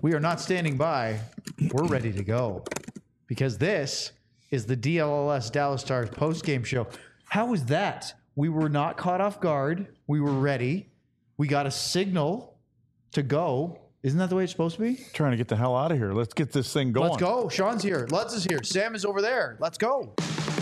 We are not standing by. We're ready to go because this is the DLLS Dallas Stars post-game show. How was that? We were not caught off guard. We were ready. We got a signal to go. Isn't that the way it's supposed to be? Trying to get the hell out of here. Let's get this thing going. Let's go. Sean's here. Lutz is here. Sam is over there. Let's go.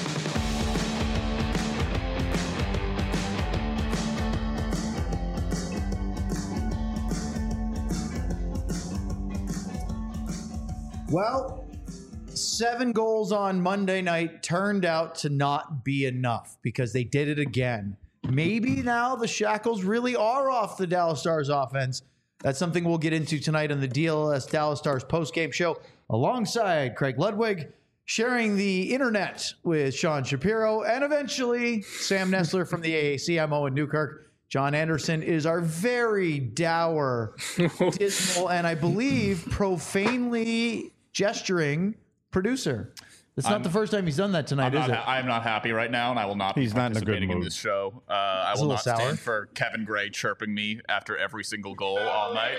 Well, 7 goals on Monday night turned out to not be enough because they did it again. Maybe now the shackles really are off the Dallas Stars offense. That's something we'll get into tonight on the DLS Dallas Stars postgame show alongside Craig Ludwig, sharing the internet with Sean Shapiro, and eventually Sam Nestler from the AAC. I'm Owen Newkirk. John Anderson is our very dour, dismal, and I believe profanely gesturing producer. It's not the first time he's done that tonight, is it? I'm not happy right now, and I will not be participating in this show. I will not stand for Kevin Gray chirping me after every single goal all night.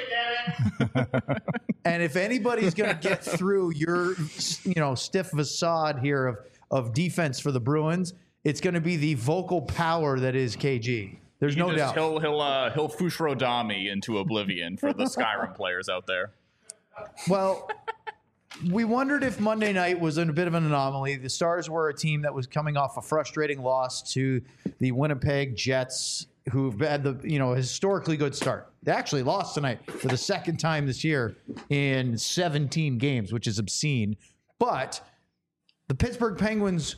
And if anybody's going to get through your, stiff facade here of defense for the Bruins, it's going to be the vocal power that is KG. There's no doubt. He'll Fushrodami into oblivion for the Skyrim players out there. Well, we wondered if Monday night was a bit of an anomaly. The Stars were a team that was coming off a frustrating loss to the Winnipeg Jets, who've had the historically good start. They actually lost tonight for the second time this year in 17 games, which is obscene. But the Pittsburgh Penguins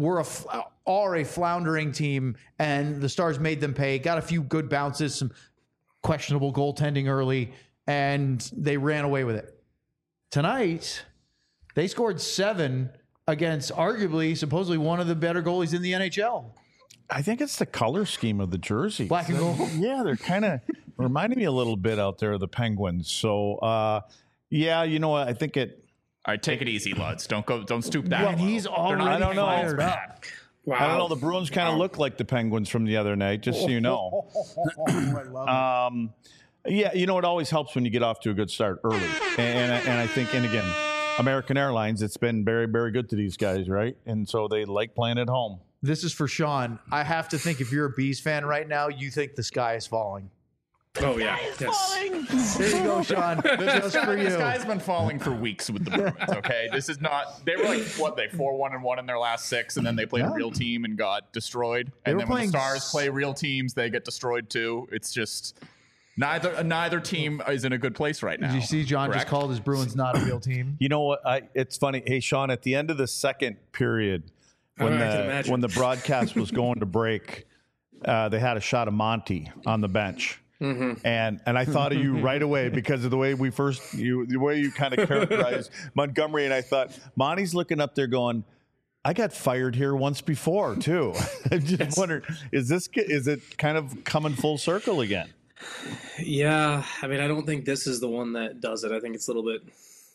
are a floundering team, and the Stars made them pay. Got a few good bounces, some questionable goaltending early, and they ran away with it. Tonight, they scored 7 against arguably, supposedly, one of the better goalies in the NHL. I think it's the color scheme of the jersey. Black and gold. Yeah, they're kind of reminding me a little bit out there of the Penguins. So, you know what? I think it. All right, take it easy, Lutz. Don't stoop that. Well, he's already fired up. Wow. I don't know. The Bruins kind of look like the Penguins from the other night, just so you know. I love it. Yeah, it always helps when you get off to a good start early. And I think, and again, American Airlines, it's been very, very good to these guys, right? And so they like playing at home. This is for Sean. I have to think if you're a Bees fan right now, you think the sky is falling. Oh, yeah. Yes. There you go, Sean. Just for you. This guy's been falling for weeks with the Bruins, okay? This is not... They were like, 4-1-1 in their last 6, and then they played a real team and got destroyed. And then when the Stars play real teams, they get destroyed too. It's just... Neither team is in a good place right now. Did you see John just called his Bruins not a real team? You know what? It's funny. Hey, Sean, at the end of the second period, when the broadcast was going to break, they had a shot of Monty on the bench. Mm-hmm. And I thought of you right away because of the way the way you kind of characterized Montgomery. And I thought, Monty's looking up there going, I got fired here once before, too. I just wondered, is it kind of coming full circle again? Yeah, I mean, I don't think this is the one that does it. I think it's a little bit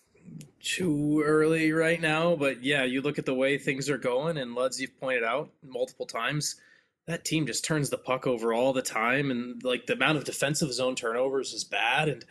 too early right now. But yeah, you look at the way things are going, and Luds, you've pointed out multiple times, that team just turns the puck over all the time, and like the amount of defensive zone turnovers is bad. And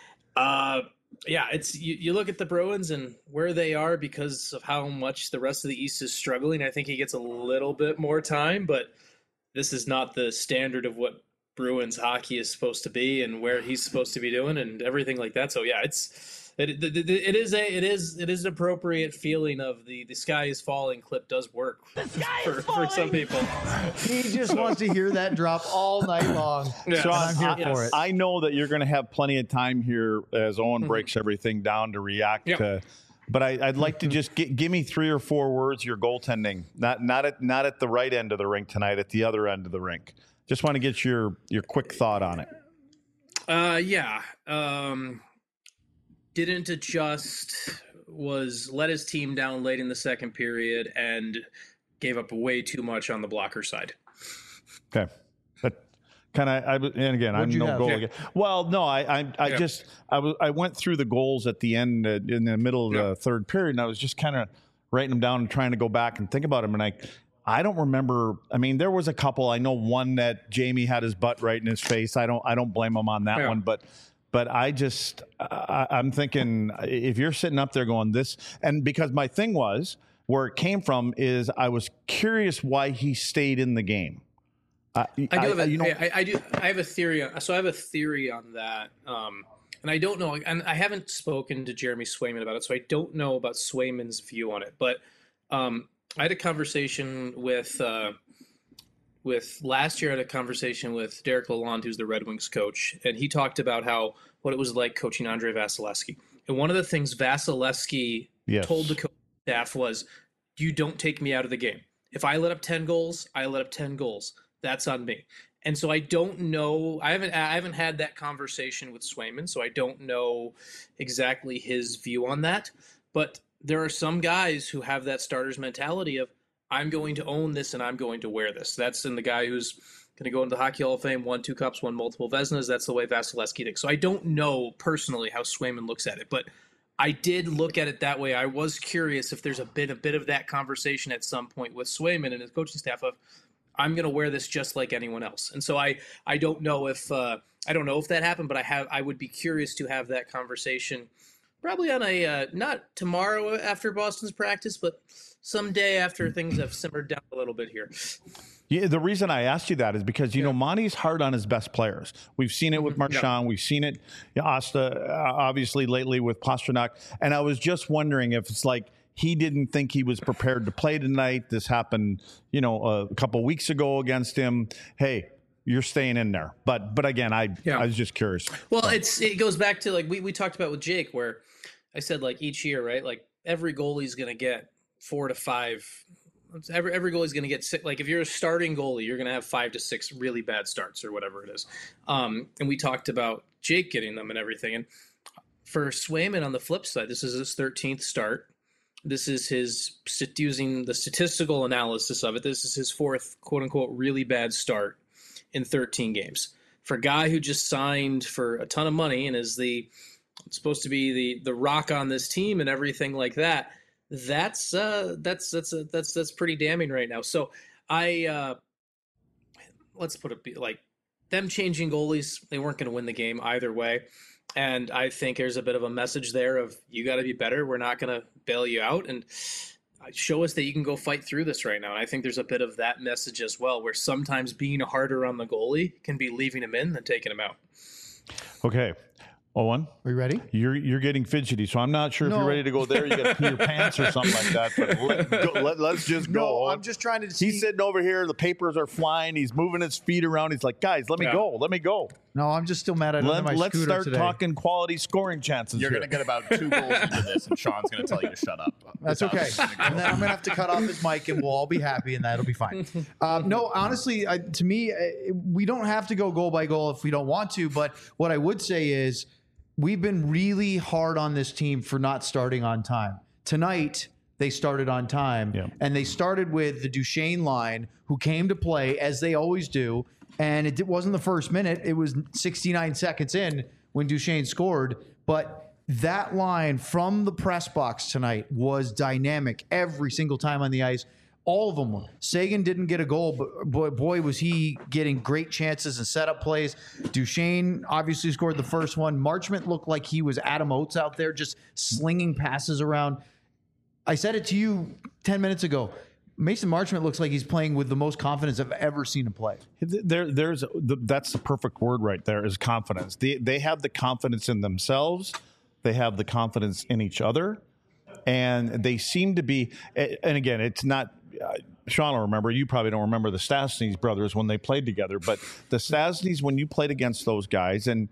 it's you look at the Bruins and where they are because of how much the rest of the East is struggling. I think he gets a little bit more time, but this is not the standard of what Bruins hockey is supposed to be and where he's supposed to be doing and everything like that. So yeah, it is an appropriate feeling of the sky is falling clip does work for some people. He just wants to hear that drop all night long. Yeah. So I'm here for it. I know that you're going to have plenty of time here as Owen breaks everything down to react to. But I'd like to just give me 3 or 4 words. Your goaltending, not at the right end of the rink tonight, at the other end of the rink. Just want to get your quick thought on it. Didn't adjust, let his team down late in the second period and gave up way too much on the blocker side. Okay. But and again, I'm no goal again. Well, no, I went through the goals at the end in the middle of the third period, and I was just kind of writing them down and trying to go back and think about them. And I don't remember. I mean, there was a couple. I know one that Jamie had his butt right in his face. I don't blame him on that one. But But I'm thinking if you're sitting up there going this, and because my thing was where it came from is I was curious why he stayed in the game. I have a theory. So I have a theory on that. And I don't know, and I haven't spoken to Jeremy Swayman about it, so I don't know about Swayman's view on it. But I had a conversation with last year. I had a conversation with Derek Lalonde, who's the Red Wings coach, and he talked about what it was like coaching Andrei Vasilevskiy. And one of the things Vasilevskiy told the coaching staff was, "You don't take me out of the game. If I let up 10 goals, I let up 10 goals. That's on me." And so I don't know. I haven't had that conversation with Swayman, so I don't know exactly his view on that. But there are some guys who have that starter's mentality of, I'm going to own this and I'm going to wear this. That's in the guy who's going to go into the Hockey Hall of Fame, won 2 cups, won multiple Vezinas. That's the way Vasilevskiy thinks. So I don't know personally how Swayman looks at it, but I did look at it that way. I was curious if there's a bit of that conversation at some point with Swayman and his coaching staff of, I'm going to wear this just like anyone else. And so I don't know if that happened, but I would be curious to have that conversation probably on a not tomorrow after Boston's practice, but someday after things have simmered down a little bit here. Yeah, the reason I asked you that is because, Monty's hard on his best players. We've seen it with Marchand. Yeah. We've seen it, Asta, obviously lately with Pastrnak. And I was just wondering if it's like he didn't think he was prepared to play tonight. This happened, a couple weeks ago against him. Hey, you're staying in there. But again, I was just curious. Well, it goes back to like we talked about with Jake, where I said like each year, right? Like every goalie's going to get 4 to 5. Every goalie's going to get 6. Like if you're a starting goalie, you're going to have 5 to 6 really bad starts or whatever it is. And we talked about Jake getting them and everything. And for Swayman on the flip side, this is his 13th start. This is his, using the statistical analysis of it, this is his 4th, quote-unquote, really bad start in 13 games. For a guy who just signed for a ton of money and is supposed to be the rock on this team and everything like that, that's pretty damning right now. So let's put it like them changing goalies, they weren't going to win the game either way. And I think there's a bit of a message there of you got to be better. We're not going to bail you out and show us that you can go fight through this right now. And I think there's a bit of that message as well, where sometimes being harder on the goalie can be leaving him in than taking him out. Okay. Owen, are you ready? You're getting fidgety, so I'm not sure if you're ready to go there. You got to pee your pants or something like that. But let's just go. No, I'm just trying to see. He's sitting over here. The papers are flying. He's moving his feet around. He's like, guys, let me go. Let me go. No, I'm just still mad at my Let's scooter start today. talking quality scoring chances. You're going to get about 2 goals into this, and Sean's going to tell you to shut up. That's okay. And then I'm going to have to cut off his mic, and we'll all be happy, and that'll be fine. No, honestly, to me, we don't have to go goal by goal if we don't want to. But what I would say is, we've been really hard on this team for not starting on time. Tonight, they started on time, and they started with the Duchesne line, who came to play, as they always do, and it wasn't the first minute. It was 69 seconds in when Duchesne scored, but that line from the press box tonight was dynamic every single time on the ice. All of them were. Seguin didn't get a goal, but boy, was he getting great chances and setup plays. Duchesne obviously scored the first one. Marchment looked like he was Adam Oates out there, just slinging passes around. I said it to you 10 minutes ago. Mason Marchment looks like he's playing with the most confidence I've ever seen him play. That's the perfect word right there, is confidence. They have the confidence in themselves. They have the confidence in each other. And they seem to be, and again, it's not, Sean will remember, you probably don't remember the Stastny's brothers when they played together, but the Stastny's, when you played against those guys, and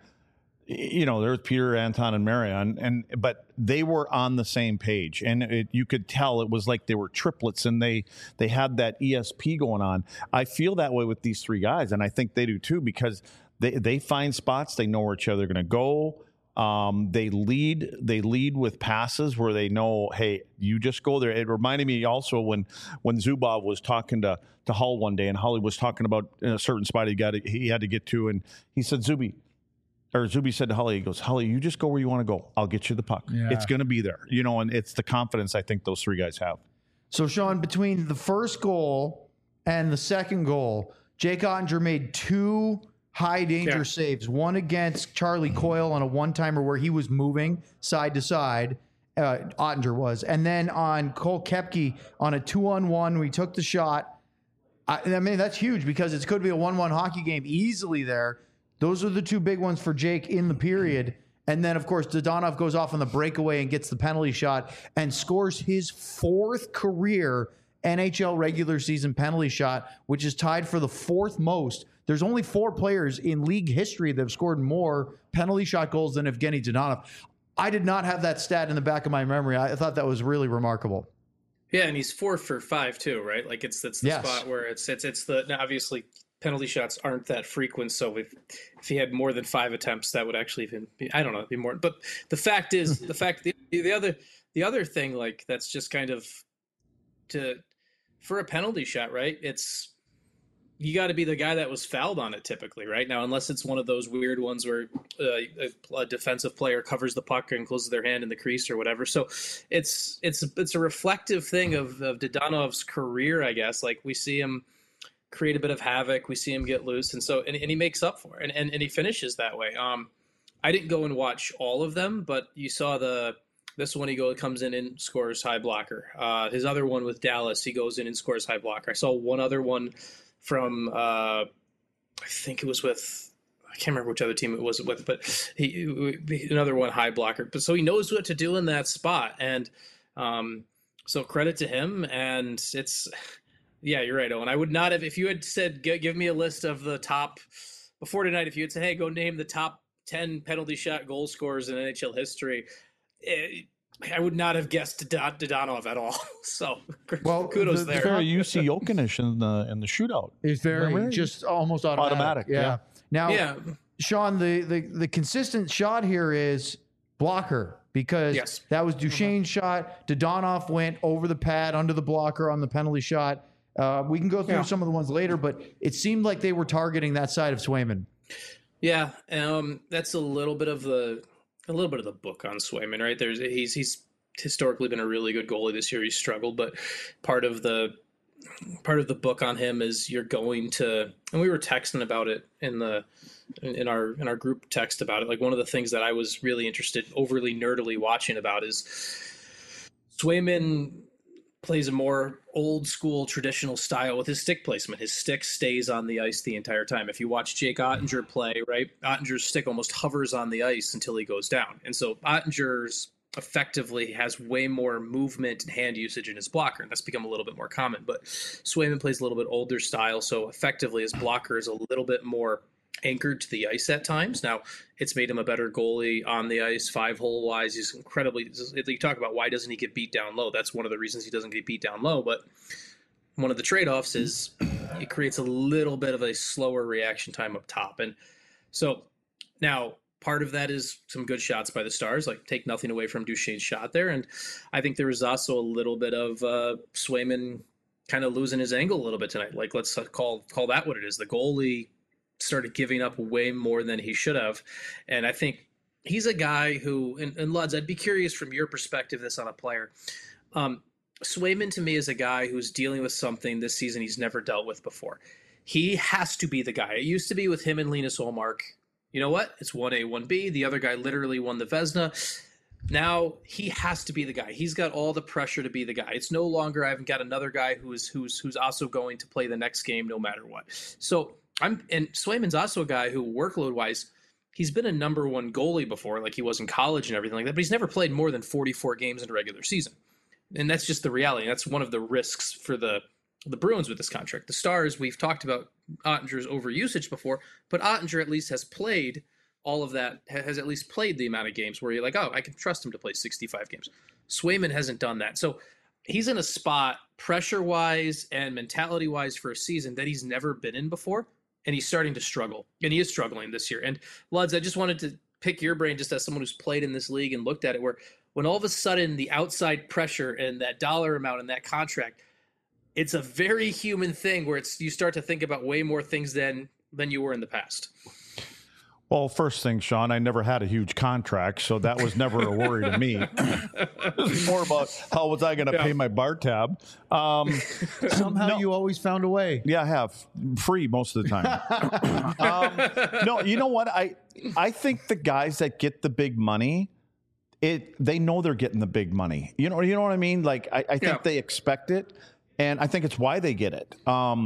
there's Peter, Anton, and Marion, but they were on the same page, and you could tell it was like they were triplets, and they had that ESP going on. I feel that way with these 3 guys, and I think they do too, because they find spots, they know where each other are going to go. They lead with passes where they know, hey, you just go there. It reminded me also when Zubov was talking to Hull one day, and Hully was talking about a certain spot he had to get to, and he said, Zuby said to Hully, he goes, Hully, you just go where you want to go. I'll get you the puck. Yeah. It's going to be there, and it's the confidence I think those 3 guys have. So, Sean, between the first goal and the second goal, Jake Ottinger made 2 high danger saves. One against Charlie Coyle on a one-timer where he was moving side to side. Ottinger was. And then on Cole Koepke on a 2-on-1, we took the shot. I mean, that's huge because it could be a 1-1 hockey game easily there. Those are the two big ones for Jake in the period. And then, of course, Dadonov goes off on the breakaway and gets the penalty shot and scores his 4th career NHL regular season penalty shot, which is tied for the 4th most. There's only 4 players in league history that have scored more penalty shot goals than Evgeny Dadonov. I did not have that stat in the back of my memory. I thought that was really remarkable. Yeah, and he's 4 for 5 too, right? Like it's the spot where it's the now obviously penalty shots aren't that frequent, so if he had more than 5 attempts, that would actually be more. But the fact is, the other thing, like that's just kind of for a penalty shot, right? It's you got to be the guy that was fouled on it typically, right? Now, unless it's one of those weird ones where a defensive player covers the puck and closes their hand in the crease or whatever. So it's a reflective thing of Dadonov's career, I guess. Like we see him create a bit of havoc, we see him get loose, and he makes up for it, and he finishes that way. I didn't go and watch all of them, but you saw this one comes in and scores high blocker. His other one with Dallas, he goes in and scores high blocker. I saw one other one from I think it was with, I can't remember which other team it was with, but another one high blocker. But so he knows what to do in that spot, and so credit to him. And it's you're right, Owen. I would not have, if you had said give me a list of the top before tonight. If you had said, hey, go name the top 10 penalty shot goal scorers in NHL history, I would not have guessed Dadonov at all. So, kudos there. Very UC Jokinish in the shootout. It's very just almost automatic. Yeah. Now, Sean, the consistent shot here is blocker because that was Duchesne's shot. Dadonov went over the pad under the blocker on the penalty shot. We can go through some of the ones later, but it seemed like they were targeting that side of Swayman. Yeah, that's a little bit of the book on Swayman, right? He's historically been a really good goalie this year. He's struggled, but part of the book on him is you're going to, and we were texting about it in our group text about it. Like one of the things that I was really interested, overly nerdily watching about is Swayman plays a more old school traditional style with his stick placement. His stick stays on the ice the entire time. If you watch Jake Ottinger play, right, Ottinger's stick almost hovers on the ice until he goes down. And so Ottinger's effectively has way more movement and hand usage in his blocker, and that's become a little bit more common. But Swayman plays a little bit older style, so effectively his blocker is a little bit more anchored to the ice at times. Now, it's made him a better goalie on the ice, 5-hole wise. He's incredibly, you talk about why doesn't he get beat down low? That's one of the reasons he doesn't get beat down low. But one of the trade-offs is it creates a little bit of a slower reaction time up top. And so now part of that is some good shots by the Stars, like take nothing away from Duchesne's shot there. And I think there was also a little bit of Swayman kind of losing his angle a little bit tonight. Like let's call that what it is. The goalie started giving up way more than he should have. And I think he's a guy who, and Luds, I'd be curious from your perspective, this on a player. Swayman to me is a guy who's dealing with something this season he's never dealt with before. He has to be the guy. It used to be with him and Linus Ullmark. You know what? It's 1A, 1B. The other guy literally won the Vezina. Now he has to be the guy. He's got all the pressure to be the guy. It's no longer I've got another guy who's also going to play the next game no matter what. So and Swayman's also a guy who, workload wise, he's been a number one goalie before, like he was in college and everything like that, but he's never played more than 44 games in a regular season. And that's just the reality. That's one of the risks for the Bruins with this contract. The Stars, we've talked about Ottinger's overusage before, but Ottinger at least has played all of that, has at least played the amount of games where you're like, oh, I can trust him to play 65 games. Swayman hasn't done that. So he's in a spot pressure-wise and mentality-wise for a season that he's never been in before. And he's starting to struggle, and he is struggling this year. And Luds, I just wanted to pick your brain just as someone who's played in this league and looked at it, where when all of a sudden the outside pressure and that dollar amount and that contract, it's a very human thing where you start to think about way more things than you were in the past. Well, first thing, Sean, I never had a huge contract, so that was never a worry to me. It was more about how was I going to pay my bar tab. Somehow you always found a way. Yeah, I have. Free most of the time. No, you know what? I think the guys that get the big money, they know they're getting the big money. You know what I mean? Like, I think they expect it, and I think it's why they get it.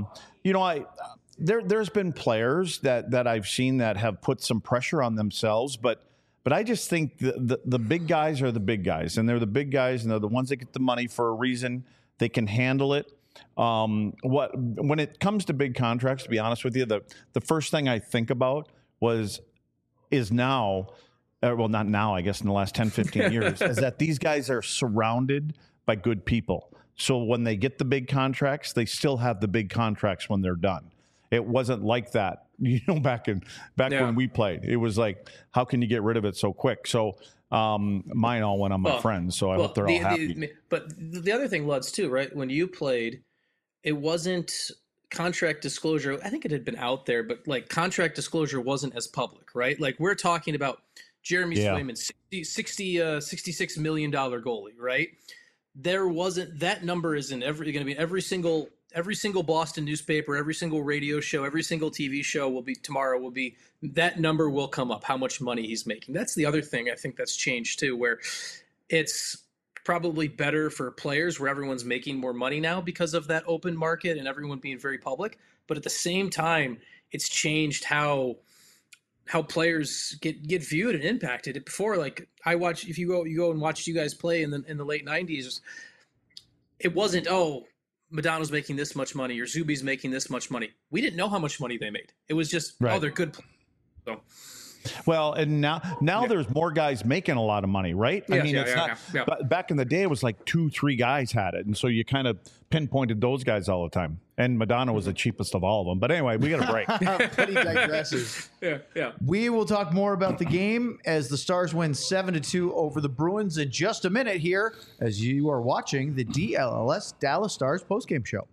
There's been players that I've seen that have put some pressure on themselves, but I just think the big guys are the big guys, and they're the big guys, and they're the ones that get the money for a reason. They can handle it. When it comes to big contracts, to be honest with you, the first thing I think about is now, well, not now, I guess in the last 10, 15 years, is that these guys are surrounded by good people. So when they get the big contracts, they still have the big contracts when they're done. It wasn't like that, back when we played. It was like, how can you get rid of it so quick? So mine all went on my friends, so I hope they're all happy. But the other thing, Luds, too, right? When you played, it wasn't contract disclosure. I think it had been out there, but like contract disclosure wasn't as public, right? Like we're talking about Jeremy Swayman, $66 million goalie, right? There wasn't, that number isn't going to be every single Boston newspaper, every single radio show, every single TV show tomorrow will be, that number will come up, how much money he's making. That's the other thing I think that's changed too, where it's probably better for players where everyone's making more money now because of that open market and everyone being very public. But at the same time, it's changed how players get viewed and impacted. Before, like I watch, if you go and watch you guys play in the late 90s, it wasn't, Modano's making this much money or Zuby's making this much money. We didn't know how much money they made. It was just, they're good players. So. Well, and now there's more guys making a lot of money, right? I mean, it's not. But back in the day, it was like 2-3 guys had it, and so you kind of pinpointed those guys all the time. And Modano was the cheapest of all of them. But anyway, we got a break. But he digresses. Yeah. We will talk more about the game as the Stars win 7-2 over the Bruins in just a minute here, as you are watching the DLLS Dallas Stars postgame show.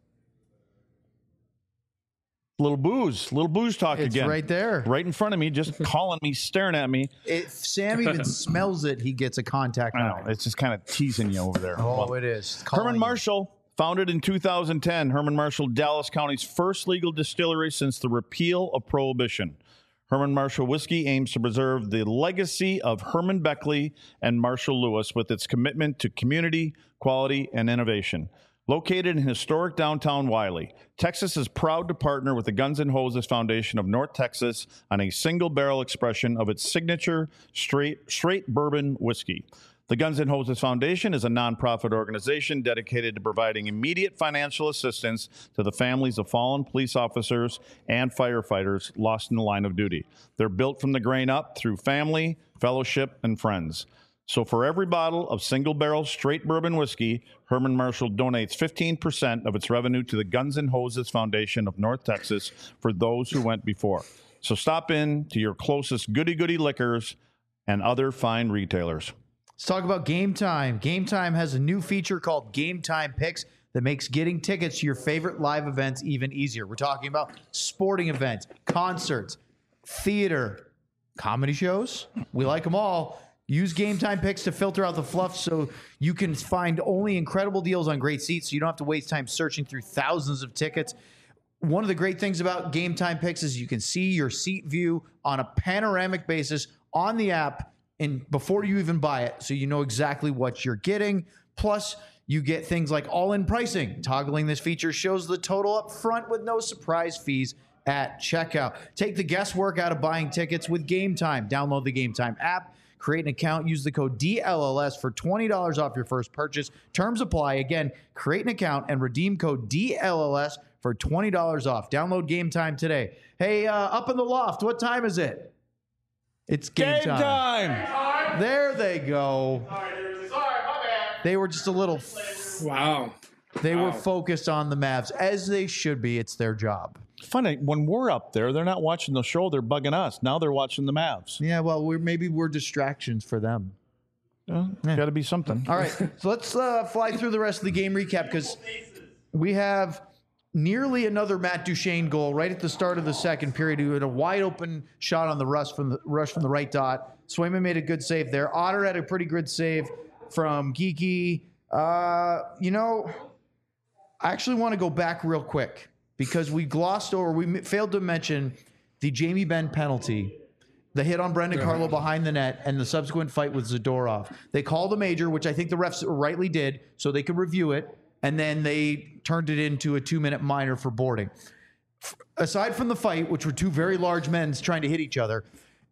Little booze talk it's again. Right there. Right in front of me, just calling me, staring at me. If Sam even smells it, he gets a contact. I know. It's just kind of teasing you over there. Oh, it is. Herman Marshall, founded in 2010. Herman Marshall, Dallas County's first legal distillery since the repeal of Prohibition. Herman Marshall Whiskey aims to preserve the legacy of Herman Beckley and Marshall Lewis with its commitment to community, quality, and innovation. Located in historic downtown Wiley, Texas is proud to partner with the Guns N' Hoses Foundation of North Texas on a single-barrel expression of its signature straight bourbon whiskey. The Guns N' Hoses Foundation is a nonprofit organization dedicated to providing immediate financial assistance to the families of fallen police officers and firefighters lost in the line of duty. They're built from the grain up through family, fellowship, and friends. So for every bottle of single-barrel straight bourbon whiskey, Herman Marshall donates 15% of its revenue to the Guns N' Hoses Foundation of North Texas for those who went before. So stop in to your closest goody-goody liquors and other fine retailers. Let's talk about Game Time. Game Time has a new feature called Game Time Picks that makes getting tickets to your favorite live events even easier. We're talking about sporting events, concerts, theater, comedy shows. We like them all. Use Game Time Picks to filter out the fluff so you can find only incredible deals on great seats so you don't have to waste time searching through thousands of tickets. One of the great things about Game Time Picks is you can see your seat view on a panoramic basis on the app and before you even buy it, so you know exactly what you're getting. Plus, you get things like all-in pricing. Toggling this feature shows the total up front with no surprise fees at checkout. Take the guesswork out of buying tickets with Game Time. Download the Game Time app. Create an account. Use the code DLLS for $20 off your first purchase. Terms apply. Again, create an account and redeem code DLLS for $20 off. Download Game Time today. Hey, up in the loft, what time is it? It's game time. There they go. Sorry, my bad. They were just a little. Wow. They were focused on the Mavs, as they should be. It's their job. Funny, when we're up there, they're not watching the show. They're bugging us. Now they're watching the Mavs. Yeah, well, maybe we're distractions for them. Got to be something. All right, so let's fly through the rest of the game recap because we have nearly another Matt Duchene goal right at the start of the second period. He had a wide open shot on the rush from the right dot. Swayman made a good save there. Otter had a pretty good save from Geekie. I actually want to go back real quick because we failed to mention the Jamie Benn penalty, the hit on Brendan Carlo behind the net, and the subsequent fight with Zadorov. They called a major, which I think the refs rightly did, so they could review it, and then they turned it into a 2-minute minor for boarding. Aside from the fight, which were two very large men trying to hit each other,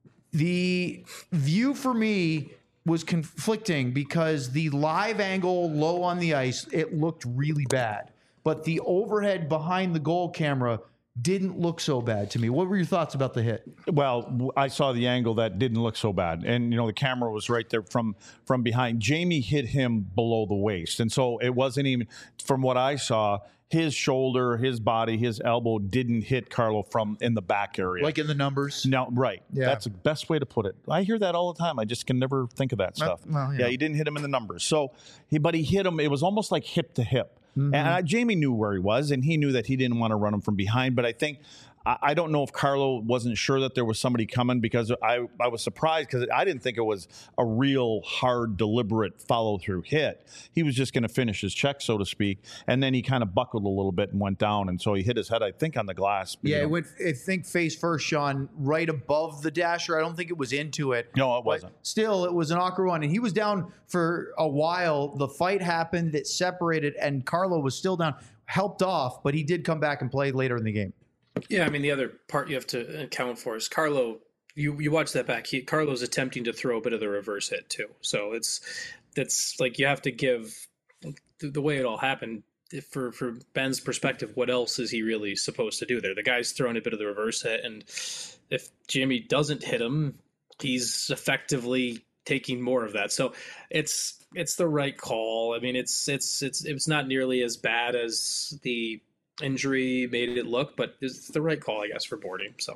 the view for me was conflicting because the live angle low on the ice, it looked really bad. But the overhead behind the goal camera didn't look so bad to me. What were your thoughts about the hit? Well, I saw the angle that didn't look so bad. And, the camera was right there from behind. Jamie hit him below the waist. And so it wasn't even, from what I saw, his shoulder, his body, his elbow didn't hit Carlo from in the back area. Like in the numbers? No, right. Yeah. That's the best way to put it. I hear that all the time. I just can never think of that stuff. Yeah, he didn't hit him in the numbers. So, but he hit him. It was almost like hip to hip. Mm-hmm. And Jamie knew where he was, and he knew that he didn't want to run him from behind. But I don't know if Carlo wasn't sure that there was somebody coming, because I was surprised because I didn't think it was a real hard, deliberate follow-through hit. He was just going to finish his check, so to speak, and then he kind of buckled a little bit and went down, and so he hit his head, I think, on the glass. Yeah, it went, I think, face first, Sean, right above the dasher. I don't think it was into it. No, it wasn't. Still, it was an awkward one, and he was down for a while. The fight happened, it separated, and Carlo was still down, helped off, but he did come back and play later in the game. Yeah, I mean, the other part you have to account for is Carlo. You watch that back. Carlo's attempting to throw a bit of the reverse hit too. So that's like you have to give the way it all happened. For Ben's perspective, what else is he really supposed to do there? The guy's throwing a bit of the reverse hit, and if Jimmy doesn't hit him, he's effectively taking more of that. So it's the right call. I mean, it's not nearly as bad as the injury made it look, but it's the right call, I guess, for boarding. So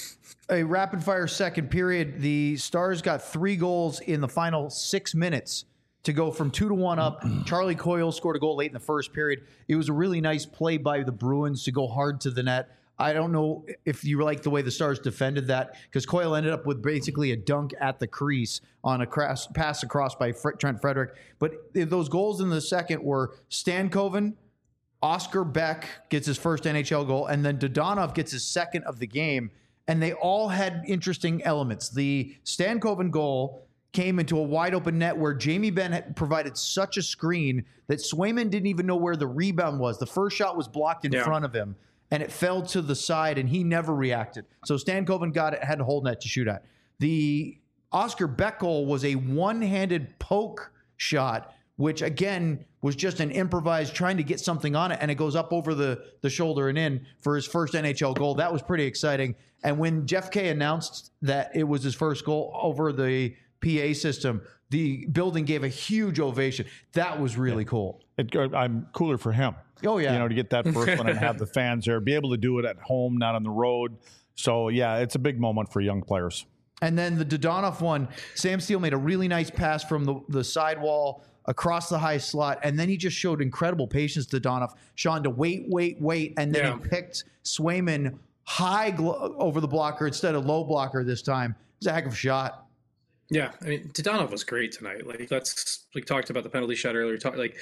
a rapid fire second period. The Stars got 3 goals in the final 6 minutes to go from 2-1 up. Charlie Coyle scored a goal late in the first period. It was a really nice play by the Bruins to go hard to the net. I don't know if you like the way the Stars defended that, because Coyle ended up with basically a dunk at the crease on a pass across by Trent Frederick. But those goals in the second were Stankoven, Oscar Beck gets his first NHL goal, and then Dodonov gets his second of the game, and they all had interesting elements. The Stankoven goal came into a wide-open net where Jamie Benn had provided such a screen that Swayman didn't even know where the rebound was. The first shot was blocked in front of him, and it fell to the side, and he never reacted. So Stankoven got it, had a whole net to shoot at. The Oscar Beck goal was a one-handed poke shot, which, again, was just an improvised trying to get something on it, and it goes up over the shoulder and in for his first NHL goal. That was pretty exciting. And when Jeff Kay announced that it was his first goal over the PA system, the building gave a huge ovation. That was really cool. I'm cooler for him. Oh, yeah. To get that first one and have the fans there, be able to do it at home, not on the road. So, yeah, it's a big moment for young players. And then the Dodonov one, Sam Steele made a really nice pass from the sidewall across the high slot, and then he just showed incredible patience to Dodonov. Sean to wait, and then he picked Swayman high over the blocker instead of low blocker this time. It was a heck of a shot. Yeah, I mean, Dodonov was great tonight. Like, that's, we talked about the penalty shot earlier.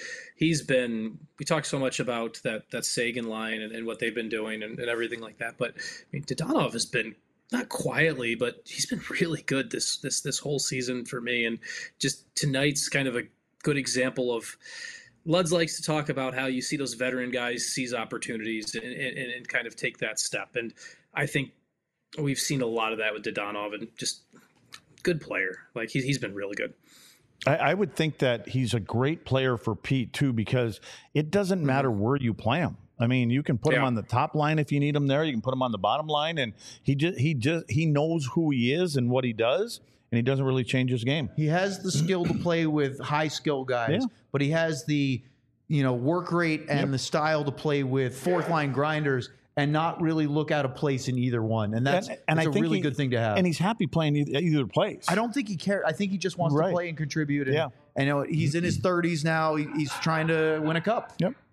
We talked so much about that Sagan line and what they've been doing and everything like that. But I mean, Dodonov has been, not quietly, but he's been really good this whole season for me. And just tonight's kind of a good example of, Luds likes to talk about how you see those veteran guys seize opportunities and kind of take that step. And I think we've seen a lot of that with Dodonov, and just good player. Like, he's been really good. I would think that he's a great player for Pete too, because it doesn't matter where you play him. I mean, you can put him on the top line if you need him there. You can put him on the bottom line, and he knows who he is and what he does, and he doesn't really change his game. He has the skill to play with high skill guys, but he has the work rate and the style to play with fourth line grinders and not really look out of place in either one. And that's a really good thing to have. And he's happy playing either place. I don't think he cares. I think he just wants to play and contribute. And he's in his 30s now. He's trying to win a cup. Yep.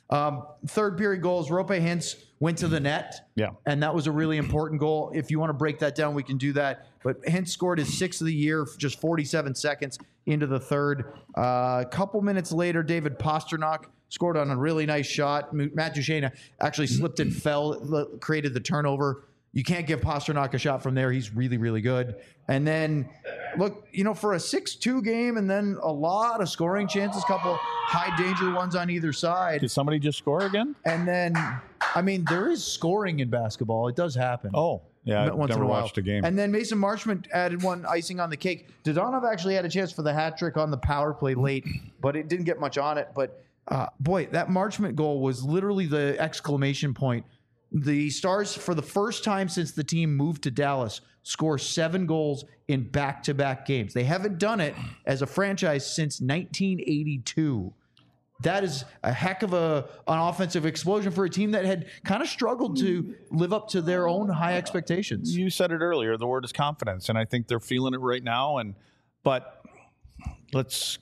Third period goals, Roope Hintz went to the net. Yeah. And that was a really important goal. If you want to break that down, we can do that. But Hintz scored his 6th of the year, just 47 seconds into the third. A couple minutes later, David Pastrnak scored on a really nice shot. Matt Duchene actually slipped and fell, created the turnover. You can't give Pastrnak a shot from there. He's really, really good. And then, look, for a 6-2 game and then a lot of scoring chances, couple high-danger ones on either side. Did somebody just score again? And then, there is scoring in basketball. It does happen. Oh, yeah, I've never watched a game. And then Mason Marchment added one icing on the cake. Dodonov actually had a chance for the hat trick on the power play late, but it didn't get much on it. But, boy, that Marchment goal was literally the exclamation point. The Stars, for the first time since the team moved to Dallas, score 7 goals in back-to-back games. They haven't done it as a franchise since 1982. That is a heck of an offensive explosion for a team that had kind of struggled to live up to their own high expectations. You said it earlier. The word is confidence, and I think they're feeling it right now. But let's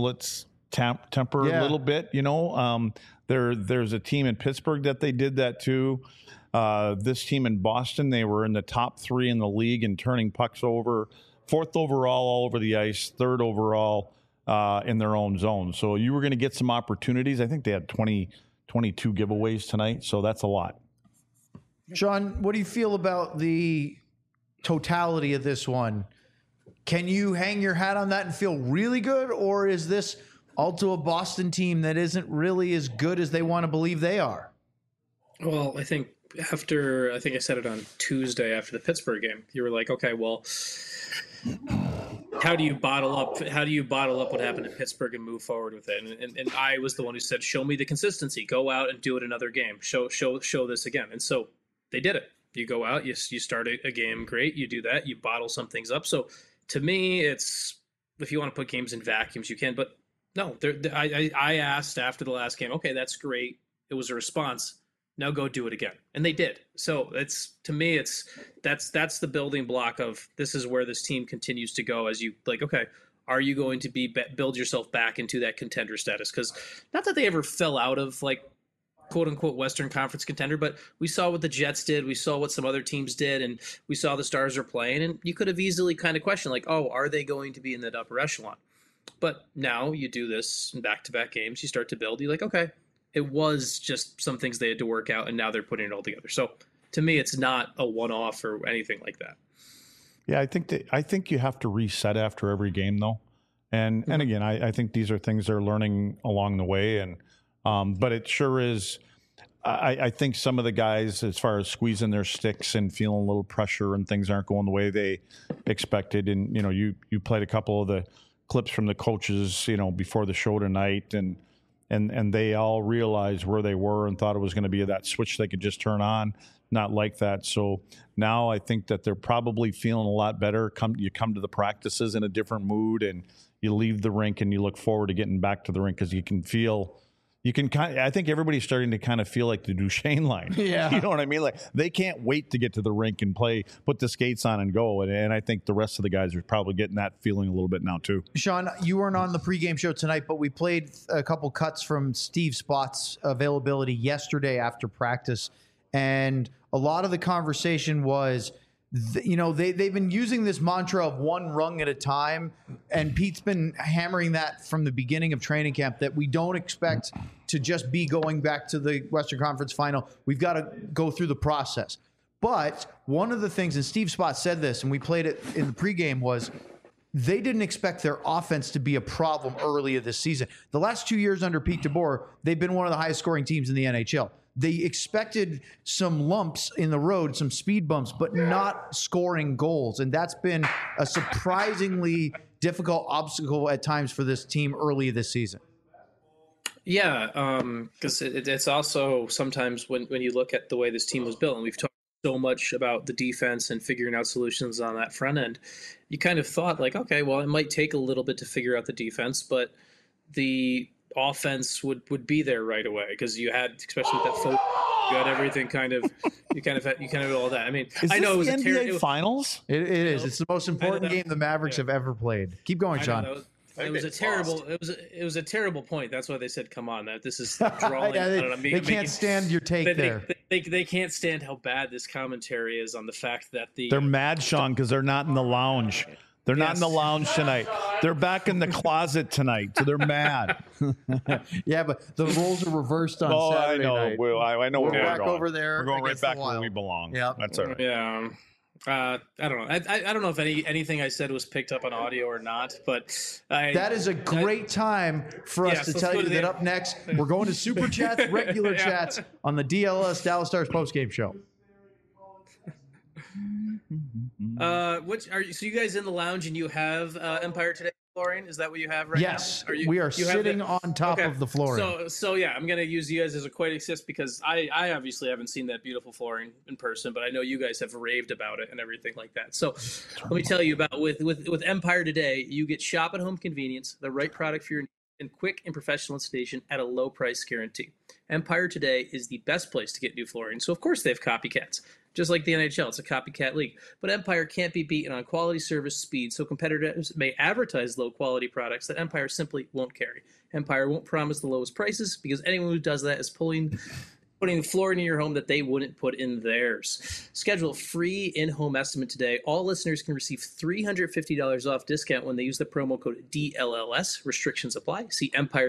temper a little bit. There's a team in Pittsburgh that they did that too. This team in Boston, they were in the top 3 in the league in turning pucks over, 4th overall all over the ice, 3rd overall in their own zone. So you were going to get some opportunities. I think they had 22 giveaways tonight, so that's a lot. Sean, what do you feel about the totality of this one? Can you hang your hat on that and feel really good, or is this also a Boston team that isn't really as good as they want to believe they are? Well, I think I said it on Tuesday after the Pittsburgh game. You were like, okay, well, how do you bottle up what happened in Pittsburgh and move forward with it? And I was the one who said, show me the consistency. Go out and do it another game. Show this again. And so they did it. You go out, you start a game great. You do that. You bottle some things up. So to me, it's, if you want to put games in vacuums, you can. But no, I asked after the last game, okay, that's great. It was a response. Now go do it again. And they did. So that's the building block of this is where this team continues to go as you okay, are you going to build yourself back into that contender status? Because not that they ever fell out of quote unquote Western Conference contender, but we saw what the Jets did. We saw what some other teams did, and we saw the Stars are playing, and you could have easily kind of questioned are they going to be in that upper echelon? But now you do this in back-to-back games, you start to build, you're like, okay, it was just some things they had to work out, and now they're putting it all together. So to me, it's not a one-off or anything like that. Yeah, I think you have to reset after every game, though. And again, I think these are things they're learning along the way. And but it sure is. I think some of the guys, as far as squeezing their sticks and feeling a little pressure and things aren't going the way they expected. And you played a couple of the clips from the coaches, before the show tonight, and they all realized where they were and thought it was going to be that switch they could just turn on. Not like that. So now I think that they're probably feeling a lot better. You come to the practices in a different mood, and you leave the rink and you look forward to getting back to the rink because I think everybody's starting to kind of feel like the Duchene line. Yeah. You know what I mean? Like they can't wait to get to the rink and play, put the skates on and go. And I think the rest of the guys are probably getting that feeling a little bit now too. Sean, you weren't on the pregame show tonight, but we played a couple cuts from Steve Spott's availability yesterday after practice. And a lot of the conversation was, they've been using this mantra of one rung at a time, and Pete's been hammering that from the beginning of training camp, that we don't expect to just be going back to the Western Conference Final. We've got to go through the process. But one of the things, and Steve Spott said this, and we played it in the pregame, was they didn't expect their offense to be a problem earlier this season. The last 2 years under Pete DeBoer, they've been one of the highest scoring teams in the NHL. They expected some lumps in the road, some speed bumps, but not scoring goals. And that's been a surprisingly difficult obstacle at times for this team early this season. Yeah, because it's also sometimes when you look at the way this team was built, and we've talked so much about the defense and figuring out solutions on that front end, you kind of thought okay, well, it might take a little bit to figure out the defense, but the offense would be there right away because you had, especially with that focus, you had everything you had all that. I mean, I know it was the NBA Finals. It is. It's the most important game the Mavericks have ever played. Keep going, Sean. It was a terrible. It was a terrible point. That's why they said, "Come on, that this is drawing." They can't stand your take there. They can't stand how bad this commentary is on the fact that they're mad, Sean, because they're not in the lounge. They're not in the lounge tonight. They're back in the closet tonight, so they're mad. Yeah, but the roles are reversed on Saturday night. I know we're where back we're going. over there. We're going right back where we belong. Yeah, that's all right. Yeah. I don't know. I don't know if anything I said was picked up on audio or not, but that is a great time for us to tell you that up next we're going to Super Chats, regular chats on the DLS Dallas Stars postgame show. So you guys in the lounge and you have Empire Today flooring? Is that what you have right now? Yes, we are sitting on top of the flooring. So yeah, I'm gonna use you guys as a quick assist because I obviously haven't seen that beautiful flooring in person, but I know you guys have raved about it and everything like that. So let me tell you about with Empire Today, you get shop at home convenience, the right product for your needs, and quick and professional installation at a low price guarantee. Empire Today is the best place to get new flooring, so of course they have copycats. Just like the NHL, it's a copycat league. But Empire can't be beaten on quality, service, speed, so competitors may advertise low-quality products that Empire simply won't carry. Empire won't promise the lowest prices because anyone who does that is putting flooring in your home that they wouldn't put in theirs. Schedule a free in-home estimate today. All listeners can receive $350 off discount when they use the promo code DLLS. Restrictions apply. See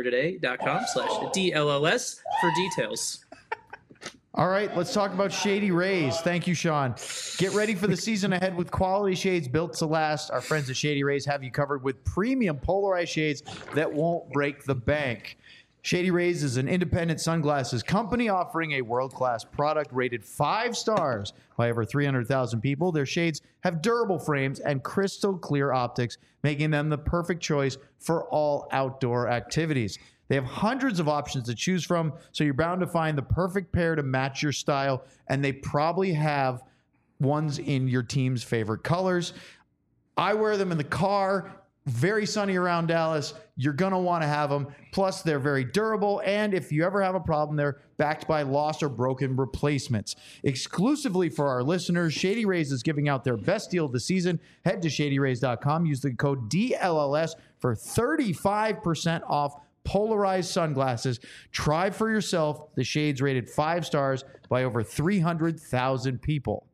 EmpireToday.com/DLLS for details. All right, let's talk about Shady Rays. Thank you, Sean. Get ready for the season ahead with quality shades built to last. Our friends at Shady Rays have you covered with premium polarized shades that won't break the bank. Shady Rays is an independent sunglasses company offering a world-class product rated 5 stars by over 300,000 people. Their shades have durable frames and crystal clear optics, making them the perfect choice for all outdoor activities. They have hundreds of options to choose from, so you're bound to find the perfect pair to match your style, and they probably have ones in your team's favorite colors. I wear them in the car. Very sunny around Dallas. You're going to want to have them. Plus, they're very durable, and if you ever have a problem, they're backed by lost or broken replacements. Exclusively for our listeners, Shady Rays is giving out their best deal of the season. Head to shadyrays.com. Use the code DLLS for 35% off polarized sunglasses. Try for yourself the shades rated 5 stars by over 300,000 people.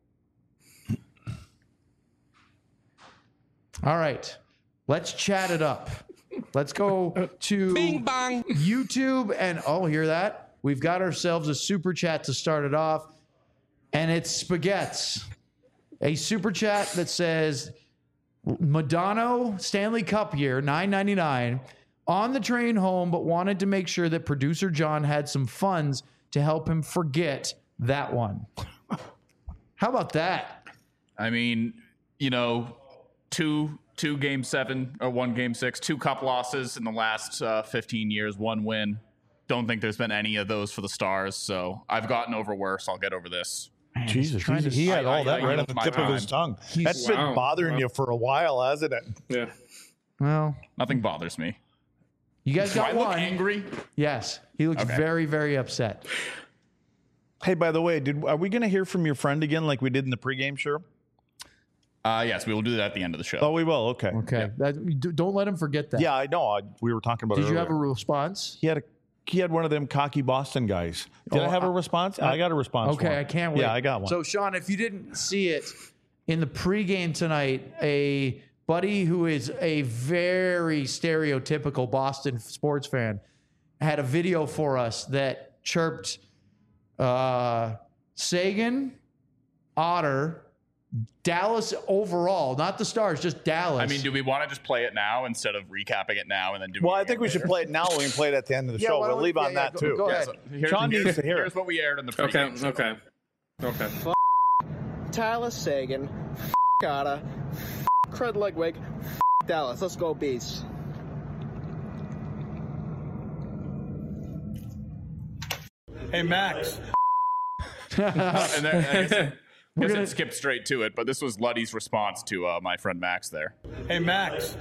All right, let's chat it up. Let's go to Bing bong. YouTube and hear that? We've got ourselves a super chat to start it off, and it's Spaghetts. A super chat that says Madonna Stanley Cup year $9.99. On the train home, but wanted to make sure that producer John had some funds to help him forget that one. How about that? I mean, two game 7 or 1 game 6, 2 cup losses in the last 15 years, 1 win. Don't think there's been any of those for the Stars, so I've gotten over worse. I'll get over this. Man, Jesus, he had all that right on the tip of his tongue. That's been bothering you for a while, hasn't it? Yeah. Well, nothing bothers me. You guys got one. Look angry? Yes. He looks very, very upset. Hey, by the way, are we going to hear from your friend again like we did in the pregame show? Yes, we will do that at the end of the show. Oh, we will. Okay. Okay. Yeah. Don't let him forget that. Yeah, I know. We were talking about it earlier. Did you have a response? He had one of them cocky Boston guys. Did I have a response? I got a response. Okay, I can't wait. Yeah, I got one. So, Sean, if you didn't see it in the pregame tonight, a buddy who is a very stereotypical Boston sports fan had a video for us that chirped Sagan, Otter, Dallas overall, not the Stars, just Dallas. I mean, do we want to just play it now instead of recapping it now and then do? Well, I think we should play it now. We can play it at the end of the show. We'll leave on that too. Go ahead. So Sean needs to hear it. Here's what we aired in the pregame. Okay. Tyler Sagan, Otter, Craig Ludwig, Dallas. Let's go Bees. Hey, Max. I guess skip straight to it, but this was Luddy's response to my friend Max there. Hey, Max.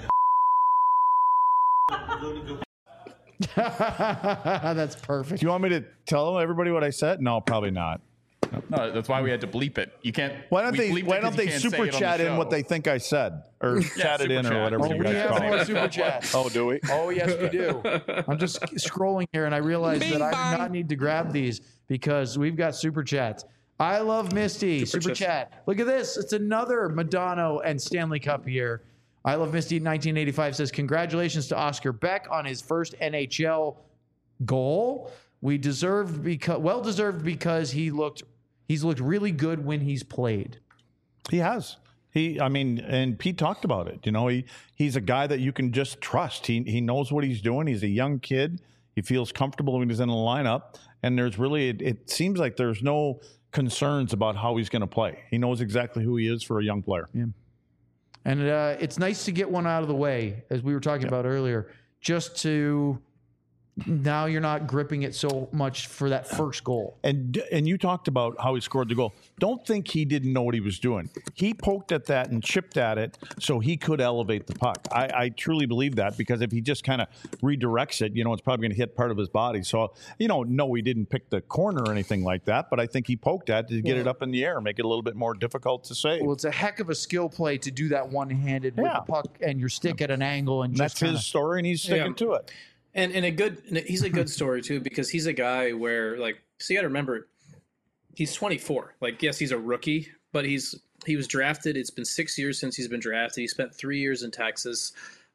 That's perfect. Do you want me to tell everybody what I said? No, probably not. No, that's why we had to bleep it. You can't. Why don't they super chat in what they think I said, or chat it in, or whatever you guys call it? We have more super chats. Oh, do we? Oh, yes, we do. I'm just scrolling here, and I realize that I do not need to grab these because we've got super chats. I love Misty. Super chat. Look at this. It's another Madonna and Stanley Cup here. I love Misty 1985 says, congratulations to Oscar Beck on his first NHL goal. Well deserved because he's looked really good when he's played. He has. And Pete talked about it. You know, he's a guy that you can just trust. He knows what he's doing. He's a young kid. He feels comfortable when he's in the lineup. And there's really, it seems like there's no concerns about how he's going to play. He knows exactly who he is for a young player. Yeah. And it's nice to get one out of the way, as we were talking about earlier, just to now you're not gripping it so much for that first goal. And you talked about how he scored the goal. Don't think he didn't know what he was doing. He poked at that and chipped at it so he could elevate the puck. I truly believe that, because if he just kind of redirects it, it's probably going to hit part of his body. So, no, he didn't pick the corner or anything like that, but I think he poked at it to get it up in the air, make it a little bit more difficult to save. Well, it's a heck of a skill play to do that one-handed with the puck and your stick at an angle. And that's his story, and he's sticking to it. And he's a good story too, because he's a guy where, so you got to remember, he's 24. Yes, he's a rookie, but he was drafted. It's been 6 years since he's been drafted. He spent 3 years in Texas.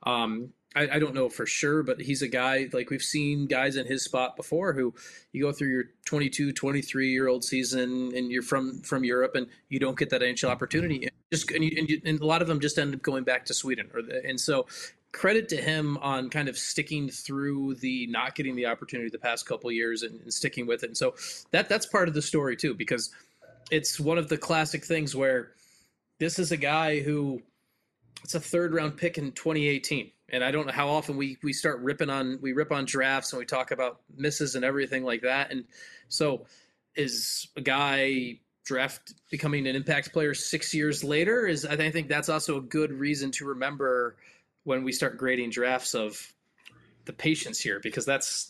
I don't know for sure, but he's a guy, we've seen guys in his spot before who you go through your 22, 23-year-old season and you're from Europe and you don't get that NHL opportunity. And a lot of them just end up going back to Sweden. And so credit to him on kind of sticking through the not getting the opportunity the past couple of years and sticking with it. And so that's part of the story too, because it's one of the classic things where this is a guy who it's a third-round pick in 2018. And I don't know how often we rip on drafts and we talk about misses and everything like that. And so is a guy becoming an impact player 6 years later I think that's also a good reason to remember when we start grading drafts of the patience here, because that's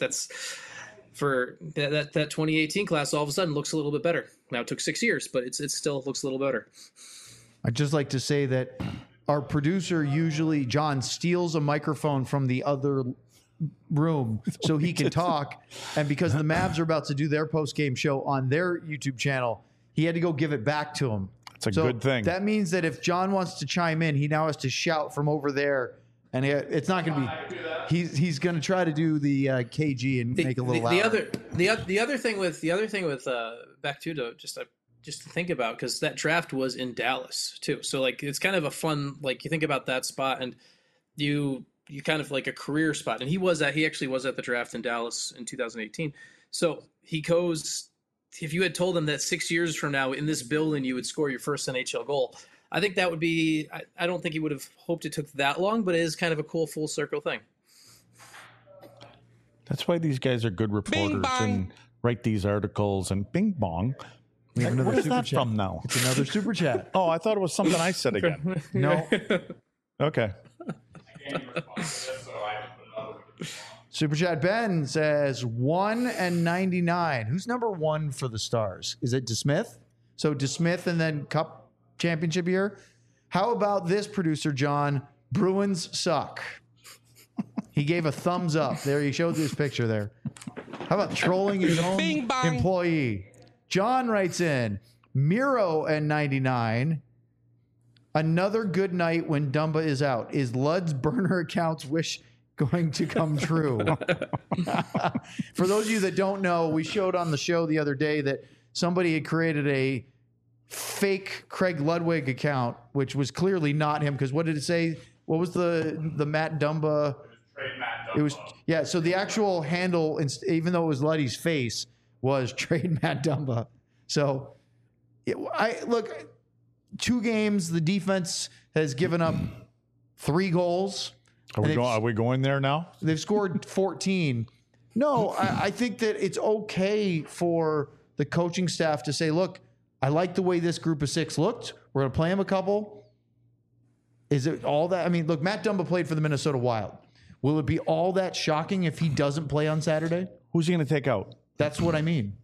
for that 2018 class all of a sudden looks a little bit better. Now it took 6 years, but it still looks a little better. I'd just like to say that our producer usually, John, steals a microphone from the other room so he can talk. And because the Mavs are about to do their post-game show on their YouTube channel, he had to go give it back to him. It's a good thing. That means that if John wants to chime in, he now has to shout from over there. And it's not going to be. He's going to try to do the KG and make it a little louder. The other thing with back to just to think about, because that draft was in Dallas too. So it's kind of a fun, you think about that spot and you kind of a career spot. And he actually was at the draft in Dallas in 2018. So he goes, if you had told him that 6 years from now in this building, you would score your first NHL goal, I think that would be, I don't think he would have hoped it took that long, but it is kind of a cool full circle thing. That's why these guys are good reporters and write these articles and bing bong. We have another what is super that chat from now? It's another super chat. Oh, I thought it was something I said again. No. Okay. Super chat Ben says 1-99. Who's number one for the Stars? Is it DeSmith? So DeSmith and then Cup championship year. How about this, producer John? Bruins suck. He gave a thumbs up. There, he showed this picture there. How about trolling his own employee? John writes in, Miro and 99. Another good night when Dumba is out. Is Lud's burner account's wish going to come true? For those of you that don't know, we showed on the show the other day that somebody had created a fake Craig Ludwig account, which was clearly not him. Because what did it say? What was the Matt Dumba? It was, yeah. So the actual handle, even though it was Luddy's face, was trade Matt Dumba. So look, 2 games, the defense has given up 3 goals. Are we going there now? They've scored 14. No, I think that it's okay for the coaching staff to say, look, I like the way this group of 6 looked. We're going to play them a couple. Is it all that? I mean, look, Matt Dumba played for the Minnesota Wild. Will it be all that shocking if he doesn't play on Saturday? Who's he going to take out? That's what I mean.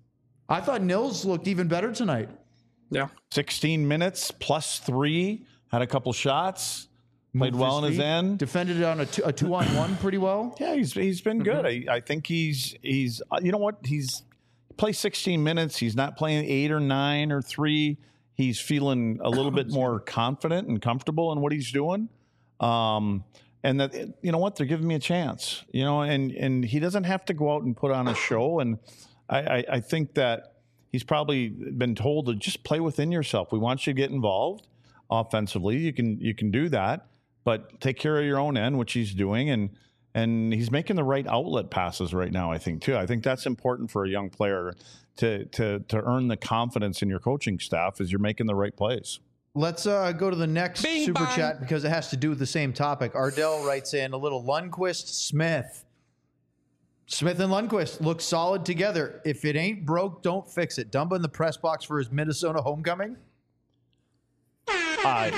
I thought Nils looked even better tonight. Yeah. 16 minutes plus 3, had a couple shots, played well in his end. Defended it on a 2-on-1 pretty well. Yeah, he's been good. I think he's you know what? He's played 16 minutes. He's not playing 8 or 9 or 3. He's feeling a little bit more confident and comfortable in what he's doing. And that, you know what? They're giving me a chance, you know, and he doesn't have to go out and put on a show. And I think that he's probably been told to just play within yourself. We want you to get involved offensively. You can do that, but take care of your own end, which he's doing. And he's making the right outlet passes right now, I think, too. I think that's important for a young player to earn the confidence in your coaching staff as you're making the right plays. Let's go to the next super chat because it has to do with the same topic. Ardell writes in a little Lundqvist Smith. Smith and Lundqvist look solid together. If it ain't broke, don't fix it. Dumba in the press box for his Minnesota homecoming. I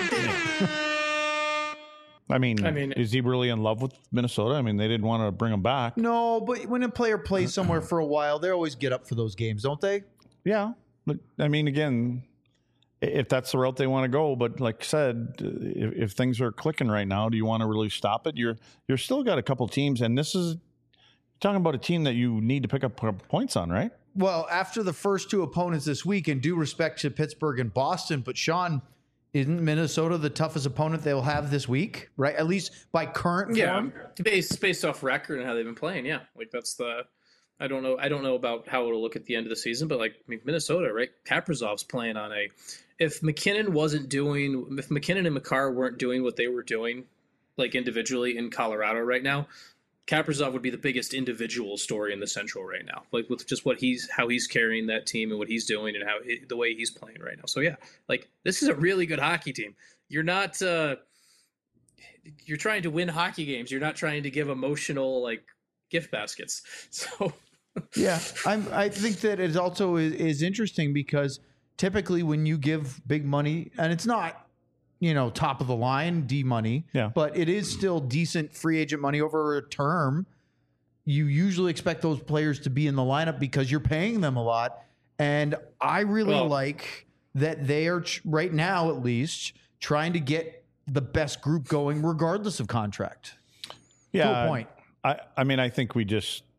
mean, is he really in love with Minnesota? I mean, they didn't want to bring him back. No, but when a player plays somewhere for a while, they always get up for those games, don't they? Yeah. But, I mean, again, if that's the route they want to go. But like I said, if things are clicking right now, do you want to really stop it? You're still got a couple teams, and this is talking about a team that you need to pick up points on, right? Well, after the first 2 opponents this week, and due respect to Pittsburgh and Boston, but Sean, isn't Minnesota the toughest opponent they'll have this week, right? At least by current form? Based off record and how they've been playing, yeah. Like that's the I don't know about how it'll look at the end of the season, but like Minnesota, right? Kaprizov's playing on if McKinnon and Makar weren't doing what they were doing, like individually in Colorado right now, Kaprizov would be the biggest individual story in the Central right now, like with just how he's carrying that team and what he's doing and the way he's playing right now. So yeah, like this is a really good hockey team. You're not you're trying to win hockey games. You're not trying to give emotional like gift baskets. So yeah, I think that it also is interesting because typically when you give big money, and it's not, top of the line D money, but it is still decent free agent money over a term. You usually expect those players to be in the lineup because you're paying them a lot. And I really like that they are right now, at least, trying to get the best group going regardless of contract. Yeah. To a point. I mean, I think we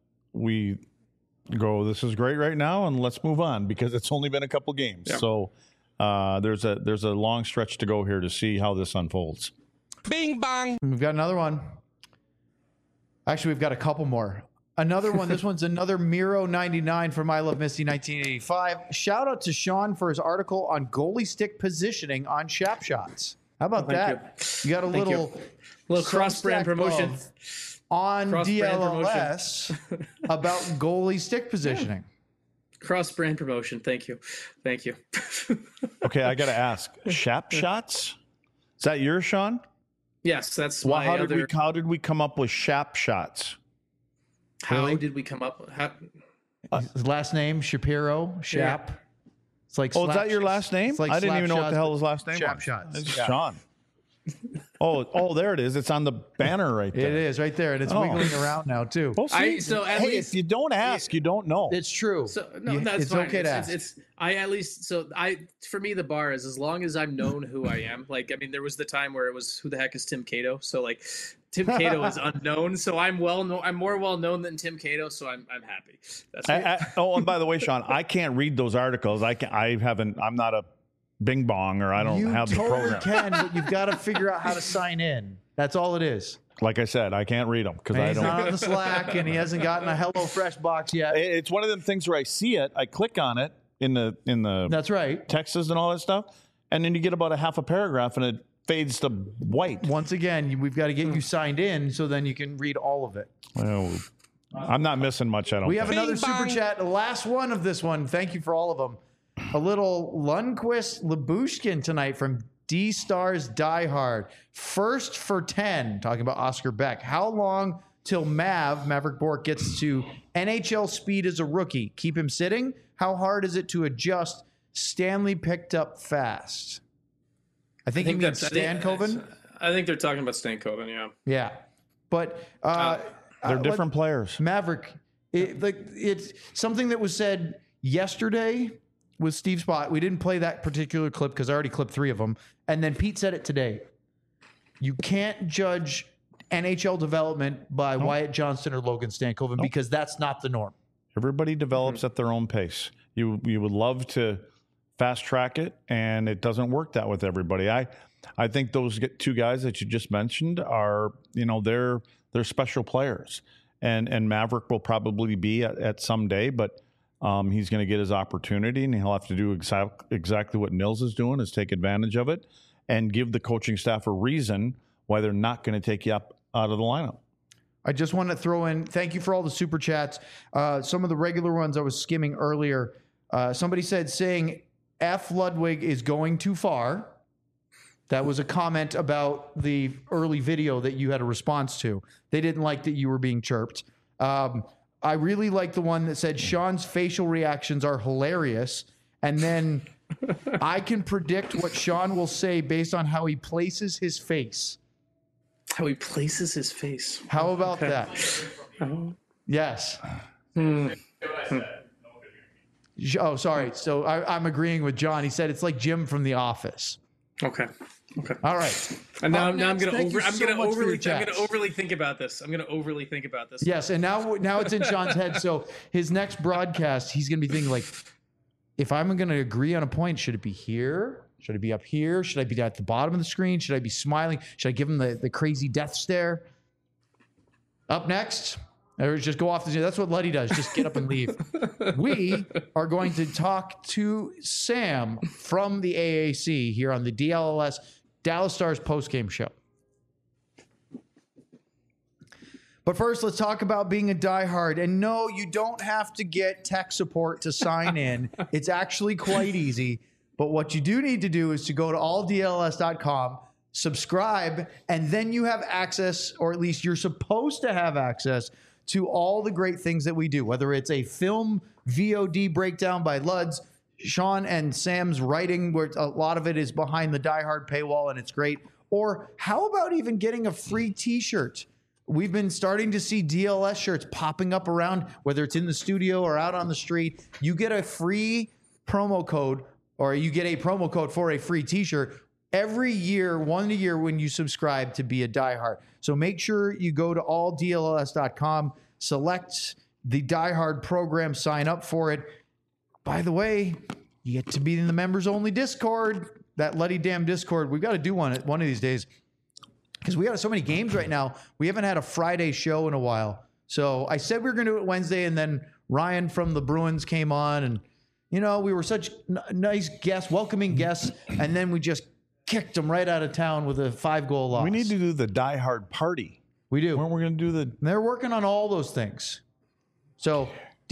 go, this is great right now, and let's move on because it's only been a couple games. Yeah. So there's a long stretch to go here to see how this unfolds. Bing bang. We've got another one. Actually, we've got a couple more. Another one. This one's another Miro 99 from I Love Misty 1985. Shout out to Sean for his article on goalie stick positioning on Shap Shots. How about that? You got a little cross-brand promotion on DLLS about goalie stick positioning. Cross-brand promotion. Thank you. Okay, I got to ask. Shap Shots? Is that yours, Sean? Yes, that's my other... How did we come up with Shap Shots? How did we come up with his last name, Shapiro, Shap. Yeah. It's like is that your last name? Like I didn't even know what the hell his last name Shap was. Shots. It's Sean. Oh, there it is. It's on the banner right there. It is right there, and it's wiggling around now too. Well, if you don't ask, you don't know. It's true. So that's it's fine. Okay to ask. For me the bar is as long as I'm known who I am. Like I mean, there was the time where it was who the heck is Tim Cato? So like Tim Cato is unknown, so I'm more well known than Tim Cato, so I'm happy. That's and by the way, Sean, I can't read those articles. I'm not a Bing Bong, or I don't have the program. You totally can, but you've got to figure out how to sign in. That's all it is. Like I said, I can't read them because I don't. He's not on the Slack, and he hasn't gotten a HelloFresh box yet. It's one of them things where I see it, I click on it in the That's right. Texts and all that stuff, and then you get about a half a paragraph, and it fades to white. Once again, we've got to get you signed in so then you can read all of it. Well, I'm not missing much. We have another super chat, the last one of this one. Thank you for all of them. A little Lundqvist Labushkin tonight from D-Stars Die Hard. First for 10, talking about Oscar Beck. How long till Maverick Bourque gets to NHL speed as a rookie? Keep him sitting? How hard is it to adjust? Stanley picked up fast. I think he means Stankoven. I think they're talking about Stankoven, yeah. Yeah. But they're different players. Maverick, it's something that was said yesterday with Steve Spott. We didn't play that particular clip because I already clipped 3 of them. And then Pete said it today. You can't judge NHL development by Wyatt Johnston or Logan Stankoven because that's not the norm. Everybody develops at their own pace. You would love to fast track it, and it doesn't work that with everybody. I think those 2 guys that you just mentioned are, they're special players, and Maverick will probably be at some day, but he's going to get his opportunity, and he'll have to do exactly what Nils is doing, is take advantage of it and give the coaching staff a reason why they're not going to take you up out of the lineup. I just want to throw in, thank you for all the super chats. Some of the regular ones I was skimming earlier. Somebody said saying F. Ludwig is going too far. That was a comment about the early video that you had a response to. They didn't like that you were being chirped. I really like the one that said Sean's facial reactions are hilarious. And then I can predict what Sean will say based on how he places his face. How he places his face. How about that? Yes. Oh, sorry. So I'm agreeing with John. He said it's like Jim from The Office. Okay. All right. And now I'm going to overly think about this. Yes, and now it's in Sean's head. So his next broadcast, he's going to be thinking like, if I'm going to agree on a point, should it be here? Should I be up here? Should I be at the bottom of the screen? Should I be smiling? Should I give him the crazy death stare? Up next, or just go off the. That's what Luddy does. Just get up and leave. We are going to talk to Sam from the AAC here on the DLS Dallas Stars postgame show. But first, let's talk about being a diehard. And no, you don't have to get tech support to sign in. It's actually quite easy. But what you do need to do is to go to alldls.com, subscribe, and then you have access, or at least you're supposed to have access to all the great things that we do, whether it's a film VOD breakdown by Luds, Sean and Sam's writing, where a lot of it is behind the diehard paywall and it's great. Or how about even getting a free t-shirt? We've been starting to see DLS shirts popping up around, whether it's in the studio or out on the street. You get a free promo code, or you get a promo code for a free t-shirt every year, one a year when you subscribe to be a diehard. So make sure you go to alldls.com, select the diehard program, sign up for it. By the way, you get to be in the members only Discord, that Luddy damn Discord. We've got to do one of these days because we got so many games right now. We haven't had a Friday show in a while. So I said we were going to do it Wednesday, and then Ryan from the Bruins came on, and we were such nice guests, welcoming guests, and then we just kicked them right out of town with a 5-goal loss. We need to do the diehard party. We do. When we're going to do They're working on all those things. So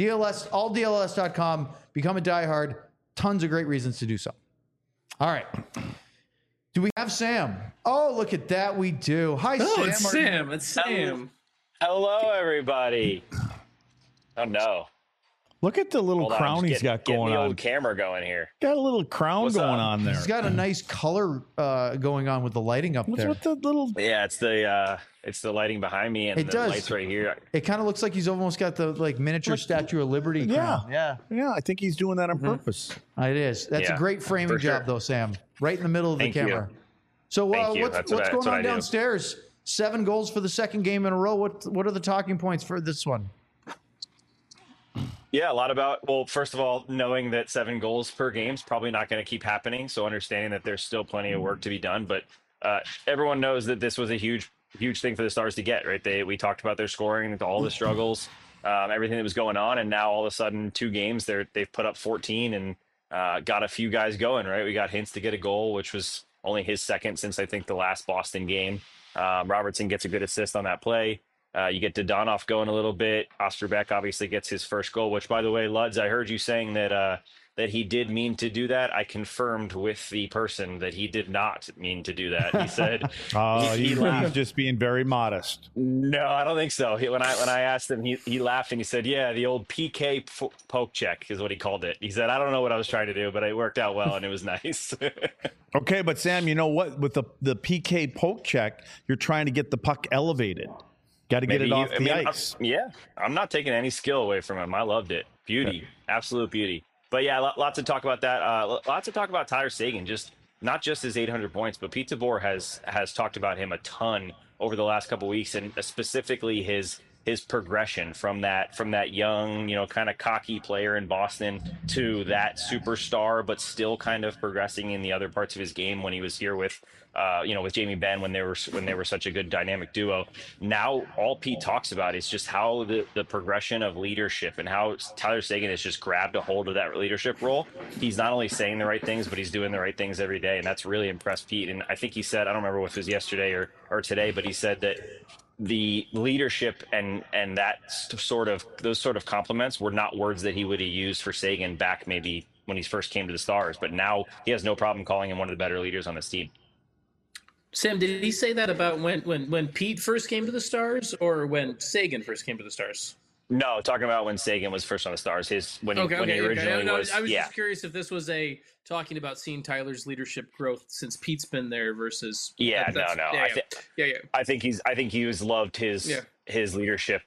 alldls.com, become a diehard. Tons of great reasons to do so. All right. Do we have Sam? Oh, look at that. We do. Hi, Sam. It's Sam. Hello, everybody. Oh, no. Look at the little crown he's got going on. Old camera going here. Got a little crown going on there. He's got a nice color going on with the lighting up there. What's with the little? Yeah, it's the lighting behind me and the lights right here. It kind of looks like he's almost got the miniature Statue of Liberty crown. Yeah. I think he's doing that on purpose. It is. That's a great framing job, though, Sam. Right in the middle of the camera. You. So what's going on downstairs? 7 goals for the second game in a row. What are the talking points for this one? Yeah, a lot about, first of all, knowing that 7 goals per game is probably not going to keep happening. So understanding that there's still plenty of work to be done. But everyone knows that this was a huge thing for the Stars to get, right? We talked about their scoring, all the struggles, everything that was going on. And now all of a sudden, 2 games, they've put up 14 and got a few guys going, right? We got Hintz to get a goal, which was only his second since I think the last Boston game. Robertson gets a good assist on that play. You get Dodonov going a little bit. Osterbeck obviously gets his first goal, which, by the way, Luds, I heard you saying that he did mean to do that. I confirmed with the person that he did not mean to do that. He said he's just being very modest. No, I don't think so. When I asked him, he laughed and he said, "Yeah, the old PK poke check is what he called it." He said, "I don't know what I was trying to do, but it worked out well and it was nice." Okay, but Sam, you know what? With the PK poke check, you're trying to get the puck elevated. Got to get it off the ice. I'm not taking any skill away from him. I loved it. Beauty, absolute beauty. But yeah, lots to talk about that. Lots to talk about Tyler Seguin. Just not just his 800 points, but Pete DeBoer has talked about him a ton over the last couple of weeks, and specifically his progression from that young, kind of cocky player in Boston to that superstar, but still kind of progressing in the other parts of his game when he was here with Jamie Benn when they were such a good dynamic duo. Now all Pete talks about is just how the progression of leadership and how Tyler Seguin has just grabbed a hold of that leadership role. He's not only saying the right things, but he's doing the right things every day, and that's really impressed Pete. And I think he said, I don't remember if it was yesterday or today, but he said that the leadership and those sort of compliments were not words that he would have used for Seguin back maybe when he first came to the Stars, but now he has no problem calling him one of the better leaders on this team. Sam, did he say that about when Pete first came to the Stars, or when Seguin first came to the Stars? No, talking about when Seguin was first on the Stars. When he originally was. I was just curious if this was talking about seeing Tyler's leadership growth since Pete's been there versus. Yeah, no. I think he's loved his leadership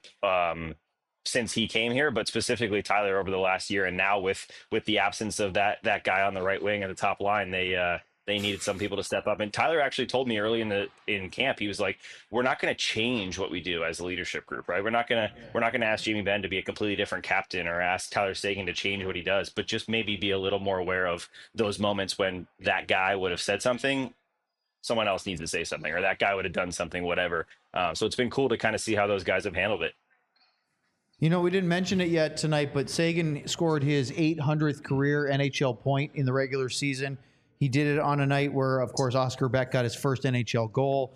since he came here, but specifically Tyler over the last year, and now with the absence of that guy on the right wing and the top line, they needed some people to step up. And Tyler actually told me early in camp, he was like, we're not going to change what we do as a leadership group, right? We're not going to ask Jamie Benn to be a completely different captain or ask Tyler Seguin to change what he does, but just maybe be a little more aware of those moments when that guy would have said something, someone else needs to say something, or that guy would have done something, whatever. So it's been cool to kind of see how those guys have handled it. We didn't mention it yet tonight, but Seguin scored his 800th career NHL point in the regular season. He did it on a night where, of course, Oscar Beck got his first NHL goal.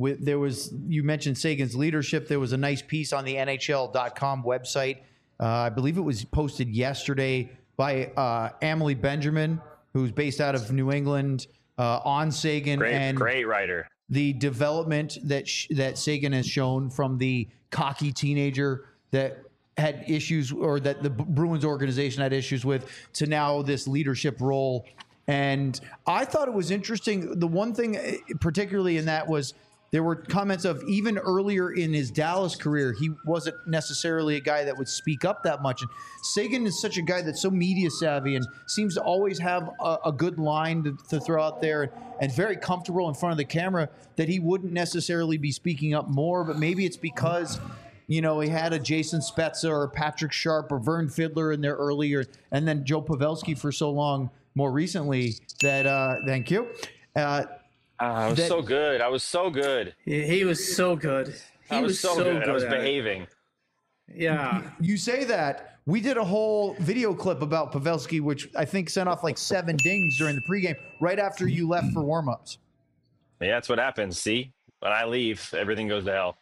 You mentioned Seguin's leadership. There was a nice piece on the NHL.com website. I believe it was posted yesterday by Emily Benjamin, who's based out of New England, on Seguin. Great writer. The development that Seguin has shown from the cocky teenager that had issues, or that the Bruins organization had issues with, to now this leadership role. And I thought it was interesting. The one thing particularly in that was there were comments of, even earlier in his Dallas career, he wasn't necessarily a guy that would speak up that much. And Seguin is such a guy that's so media savvy and seems to always have a good line to throw out there, and very comfortable in front of the camera, that he wouldn't necessarily be speaking up more. But maybe it's because, he had a Jason Spezza or Patrick Sharp or Vern Fiddler in there earlier, and then Joe Pavelski for so long more recently, that thank you. I was so good. He was so good. I was so good. I was behaving. Yeah. You say that. We did a whole video clip about Pavelski, which I think sent off like 7 dings during the pregame right after you left for warmups. Yeah, that's what happens. See, when I leave, everything goes to hell.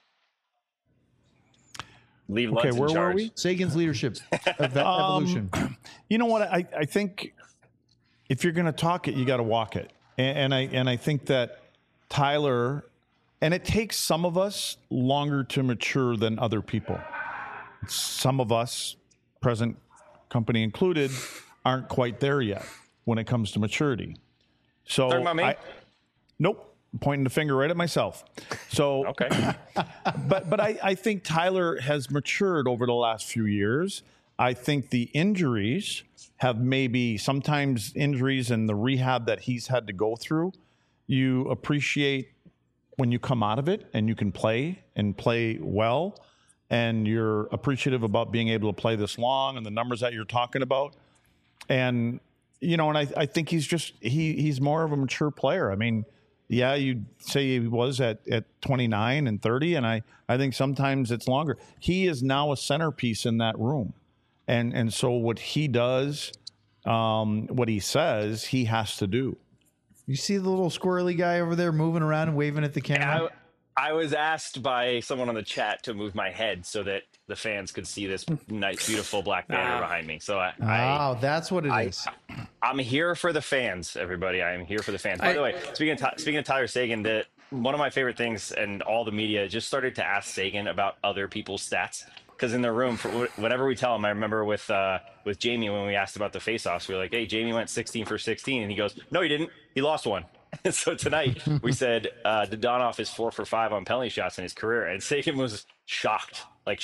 Leave Lutz in charge. Where were we? Seguin's leadership evolution. You know what? I think if you're going to talk it, you got to walk it. And I think that Tyler, and it takes some of us longer to mature than other people. Some of us, present company included, aren't quite there yet when it comes to maturity. So talking about me? Nope. Pointing the finger right at myself. So okay. But I think Tyler has matured over the last few years. I think the injuries have maybe sometimes injuries and the rehab that he's had to go through, you appreciate when you come out of it and you can play and play well, and you're appreciative about being able to play this long and the numbers that you're talking about. And, and I think he's more of a mature player. I mean, yeah, you'd say he was at 29 and 30, and I think sometimes it's longer. He is now a centerpiece in that room. And so what he does, what he says, he has to do. You see the little squirrely guy over there moving around and waving at the camera? I was asked by someone on the chat to move my head so that the fans could see this nice, beautiful black banner behind me. So that's what it is. I'm here for the fans, everybody. I am here for the fans. By the way, speaking of Tyler Seguin, one of my favorite things, and all the media just started to ask Seguin about other people's stats. Because in the room, for whatever we tell him, I remember with Jamie when we asked about the faceoffs, we were like, "Hey, Jamie went 16 for 16," and he goes, "No, he didn't. He lost one." So tonight we said Dadonov is 4 for 5 on penalty shots in his career, and Seguin was shocked.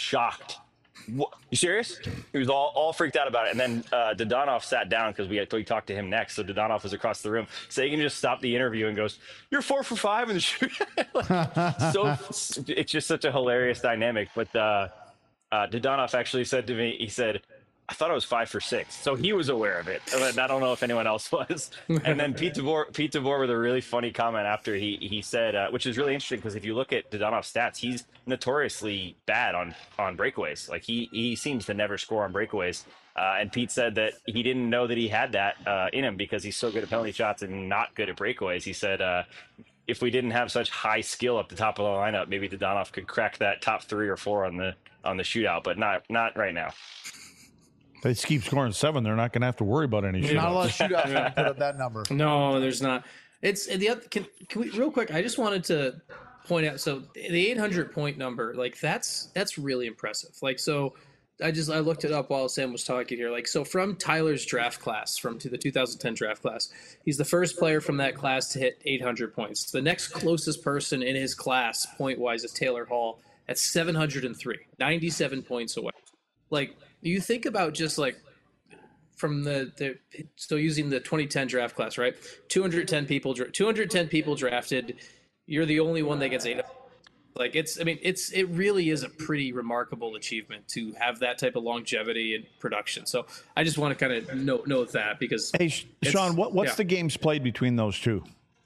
What? You serious? He was all freaked out about it. And then Dadonov sat down because we talked to him next. So Dadonov was across the room. Seguin just stopped the interview and goes, "You're 4 for 5 in the shoot." So it's just such a hilarious dynamic. But Dadonov actually said to me, he said, "I thought I was 5 for 6." So he was aware of it. And I don't know if anyone else was. And then Pete DeBoer with a really funny comment after he said, which is really interesting because if you look at Dadonov's stats, he's notoriously bad on breakaways. Like he seems to never score on breakaways. And Pete said that he didn't know that he had that in him because he's so good at penalty shots and not good at breakaways. He said, if we didn't have such high skill up the top of the lineup, maybe Dadonov could crack that top 3 or 4 on the shootout, but not right now. They just keep scoring 7. They're not going to have to worry about any shootouts. Not a lot of shootouts to put up that number. No, there's not. It's the other. Can we real quick? I just wanted to point out. So the 800 point number, like that's really impressive. Like so, I looked it up while Sam was talking here. Like so, from Tyler's draft class, from the 2010 draft class, he's the first player from that class to hit 800 points. The next closest person in his class, point wise, is Taylor Hall at 703, 97 points away. Like. You think about just like from so using the 2010 draft class, right? 210 people drafted. You're the only one that gets 8. Like it really is a pretty remarkable achievement to have that type of longevity and production. So I just want to kind of note that because hey, Sean, what's the games played between those two?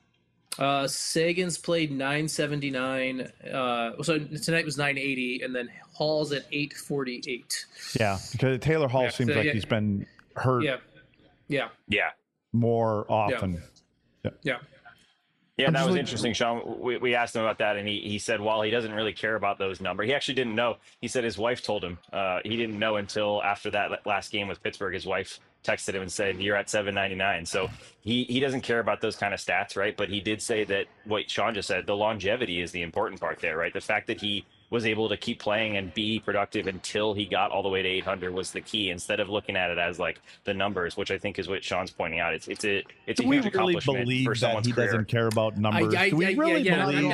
Sagan's played 979. So tonight was 980, and then Hall's at 848. Yeah, because Taylor Hall seems like he's been hurt. Yeah. More often. Yeah. Yeah, that was interesting, Sean. We asked him about that, and he said while he doesn't really care about those numbers, he actually didn't know. He said his wife told him. He didn't know until after that last game with Pittsburgh. His wife texted him and said, "You're at 799." So he doesn't care about those kind of stats, right? But he did say that what Sean just said, the longevity is the important part there, right? The fact that he was able to keep playing and be productive until he got all the way to 800 was the key, instead of looking at it as like the numbers, which I think is what Sean's pointing out. It's a huge accomplishment for someone's career. Doesn't care about numbers? Do we really believe?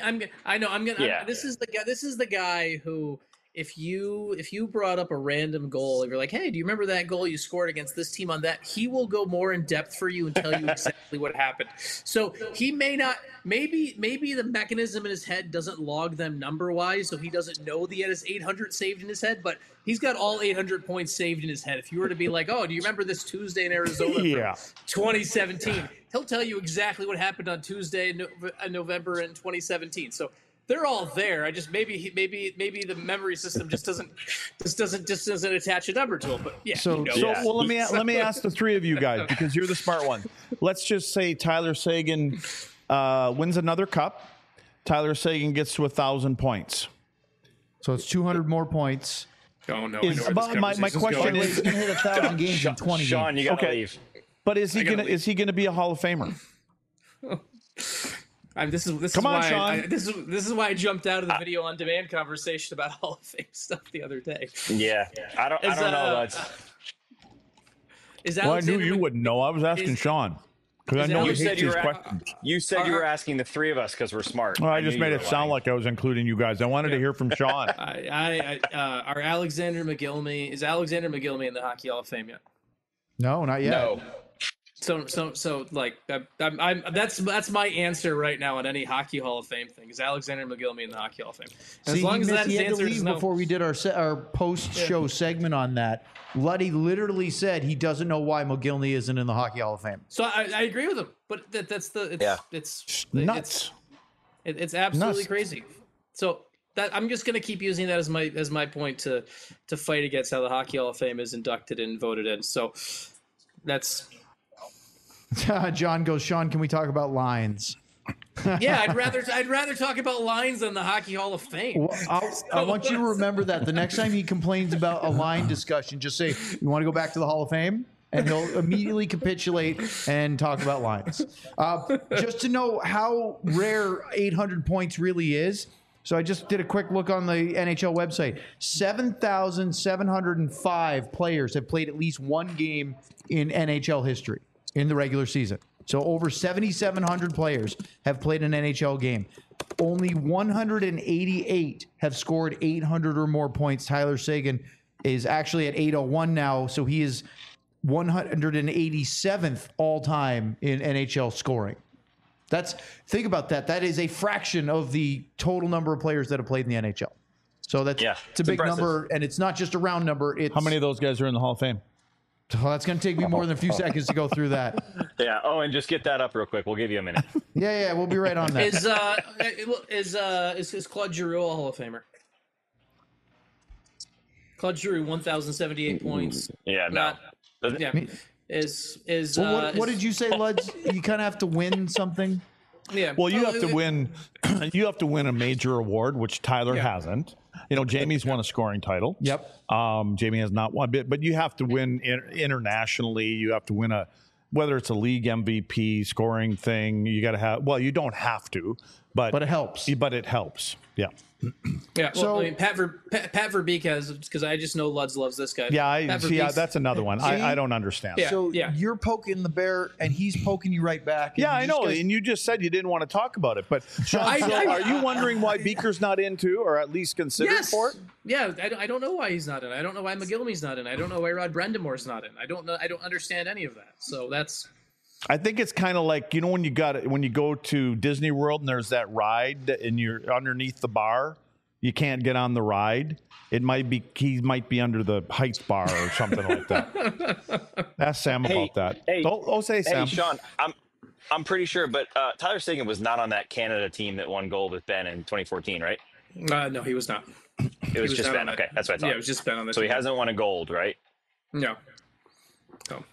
This is the guy who, if you brought up a random goal, if you're like, hey, do you remember that goal you scored against this team on that? He will go more in depth for you and tell you exactly what happened. So he may not, maybe the mechanism in his head doesn't log them number wise, so he doesn't know that he had his 800 saved in his head, but he's got all 800 points saved in his head. If you were to be like, oh, do you remember this Tuesday in Arizona from 2017? He'll tell you exactly what happened on Tuesday in November in 2017. So they're all there. I just maybe the memory system just doesn't attach a number to it. But yeah. Well, let me ask the three of you guys, because you're the smart one. Let's just say Tyler Seguin wins another cup. Tyler Seguin gets to 1,000 points. So it's 200 more points. Oh no! My question is, he's gonna hit 1,000 games in 20 Sean, games. you gotta leave. But is he gonna be a Hall of Famer? This is why I jumped out of the video on demand conversation about Hall of Fame stuff the other day. Yeah, I don't know. I knew you wouldn't know. I was asking Sean because I know he hates these questions. You said you were asking the three of us because we're smart. Well, I just made it sound like I was including you guys. I wanted to hear from Sean. Are Alexander McGillamy in the Hockey Hall of Fame yet? No, not yet. No. So like that's my answer right now on any Hockey Hall of Fame thing. Is Alexander McGillamy in the Hockey Hall of Fame? As long as that answer is no. Before we did our post-show segment on that, Luddy literally said he doesn't know why McGillamy isn't in the Hockey Hall of Fame. So I agree with him, but it's nuts. It's absolutely crazy. So that I'm just going to keep using that as my point to fight against how the Hockey Hall of Fame is inducted and voted in. So that's. John goes, Sean, can we talk about lines? Yeah, I'd rather talk about lines than the Hockey Hall of Fame. Well, I want you to remember that the next time he complains about a line discussion, just say, you want to go back to the Hall of Fame? And he'll immediately capitulate and talk about lines. Just to know how rare 800 points really is. So I just did a quick look on the NHL website. 7,705 players have played at least one game in NHL history in the regular season. So over 7,700 players have played an NHL game. Only 188 have scored 800 or more points. Tyler Seguin is actually at 801 now, so he is 187th all time in NHL scoring. Think about that. That is a fraction of the total number of players that have played in the NHL. So it's a big impressive number, and it's not just a round number. How many of those guys are in the Hall of Fame? Well, that's going to take me more than a few seconds to go through that. Yeah. Oh, and just get that up real quick. We'll give you a minute. Yeah, we'll be right on that. Is Claude Giroux a Hall of Famer? Claude Giroux, 1,078 points. Yeah, no. What did you say, Luds? You kind of have to win something. Yeah. Well, you have to win. You have to win a major award, which Tyler hasn't. Jamie's won a scoring title. Yep. Jamie has not won bit, but you have to win internationally. You have to win whether it's a league MVP scoring thing. You got to have. Well, you don't have to, but it helps. But it helps. Yeah. Yeah. Well, so Pat Verbeek has, because I just know Luds loves this guy. Yeah, that's another one. I don't understand. Yeah. So you're poking the bear, and he's poking you right back. Yeah, I know. And you just said you didn't want to talk about it, but Sean, are you wondering why Beaker's not in too, or at least considered for it? Yeah, I don't know why he's not in. I don't know why McGillivray's not in. I don't know why Rod Brendamore's not in. I don't know. I don't understand any of that. So that's. I think it's kind of like, when you go to Disney World and there's that ride and you're underneath the bar, you can't get on the ride. He might be under the Heights bar or something like that. Ask Sam about that. Say Sam. Hey, Sean, I'm pretty sure, but Tyler Seguin was not on that Canada team that won gold with Ben in 2014, right? No, he was not. It was just Ben. Okay, that's what I thought. Yeah, it was just Ben on this. So he hasn't won a gold, right? No. Oh.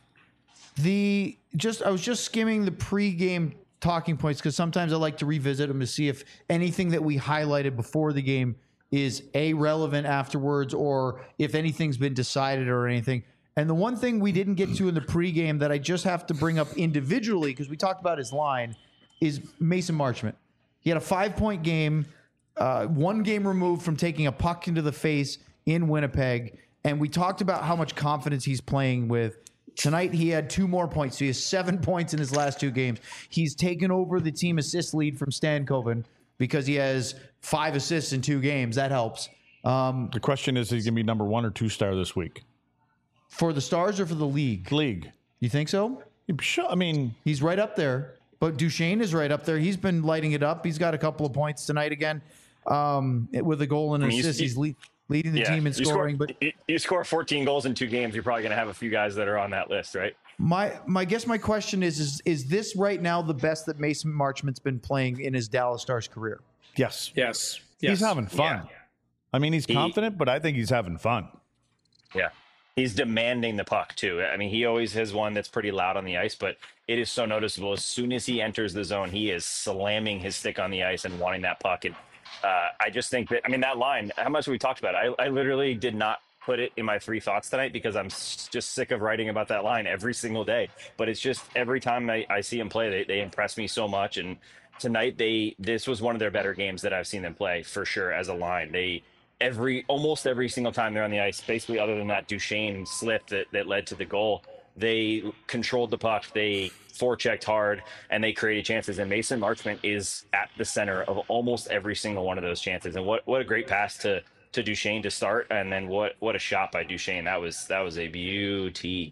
I was just skimming the pregame talking points because sometimes I like to revisit them to see if anything that we highlighted before the game is relevant afterwards, or if anything's been decided or anything. And the one thing we didn't get to in the pregame that I just have to bring up individually, because we talked about his line, is Mason Marchment. He had a 5-point game, 1 game removed from taking a puck into the face in Winnipeg, and we talked about how much confidence he's playing with. Tonight, he had 2 more points. So he has 7 points in his last 2 games. He's taken over the team assist lead from Stankoven because he has 5 assists in 2 games. That helps. The question is he going to be number 1 or 2 star this week? For the Stars or for the league? League. You think so? Sure. I mean, he's right up there. But Duchesne is right up there. He's been lighting it up. He's got a couple of points tonight again with a goal and an assist. He's leading the team in scoring. But you score 14 goals in 2 games, you're probably going to have a few guys that are on that list, right? My question is this right now the best that Mason Marchment's been playing in his Dallas Stars career? Yes. Yes. He's having fun. Yeah. I mean, he's confident, but I think he's having fun. Yeah. He's demanding the puck, too. I mean, he always has one that's pretty loud on the ice, but it is so noticeable. As soon as he enters the zone, he is slamming his stick on the ice and wanting that puck. And I just think that line, how much have we talked about it? I literally did not put it in my 3 thoughts tonight because I'm just sick of writing about that line every single day. But it's just every time I see him play, they impress me so much. And tonight, this was one of their better games that I've seen them play for sure as a line. Almost every single time they're on the ice, basically other than that Duchesne slip that led to the goal, they controlled the puck, they forechecked hard, and they created chances. And Mason Marchment is at the center of almost every single one of those chances. And what a great pass to Duchesne to start, and then what a shot by Duchesne. That was a beauty.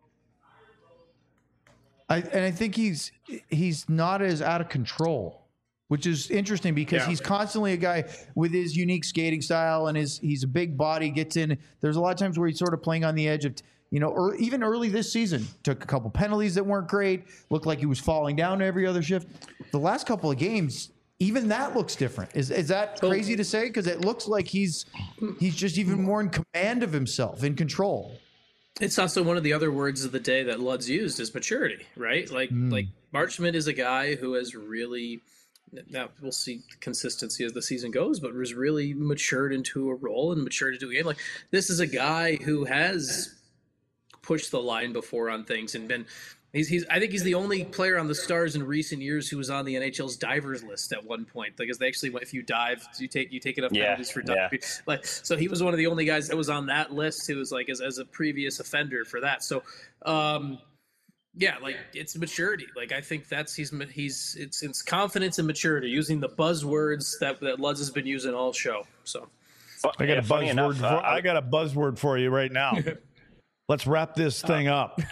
I think he's not as out of control, which is interesting because he's constantly a guy with his unique skating style and he's a big body, gets in. There's a lot of times where he's sort of playing on the edge of, even early this season, took a couple penalties that weren't great, looked like he was falling down every other shift. The last couple of games, even that looks different. Is that crazy to say? Because it looks like he's just even more in command of himself, in control. It's also one of the other words of the day that Luds used is maturity, right? Like Marchment is a guy who has really, now we'll see the consistency as the season goes, but was really matured into a role and matured into a game. Like, this is a guy who has pushed the line before on things and been. I think he's the only player on the Stars in recent years who was on the NHL's divers list at one point. Because they actually, if you dive, you take enough penalties for diving. Yeah. So he was one of the only guys that was on that list who was as a previous offender for that. So Yeah, like it's maturity. Like I think it's confidence and maturity, using the buzzwords that Luds has been using all show. So I got a buzzword for you right now. Let's wrap this thing up.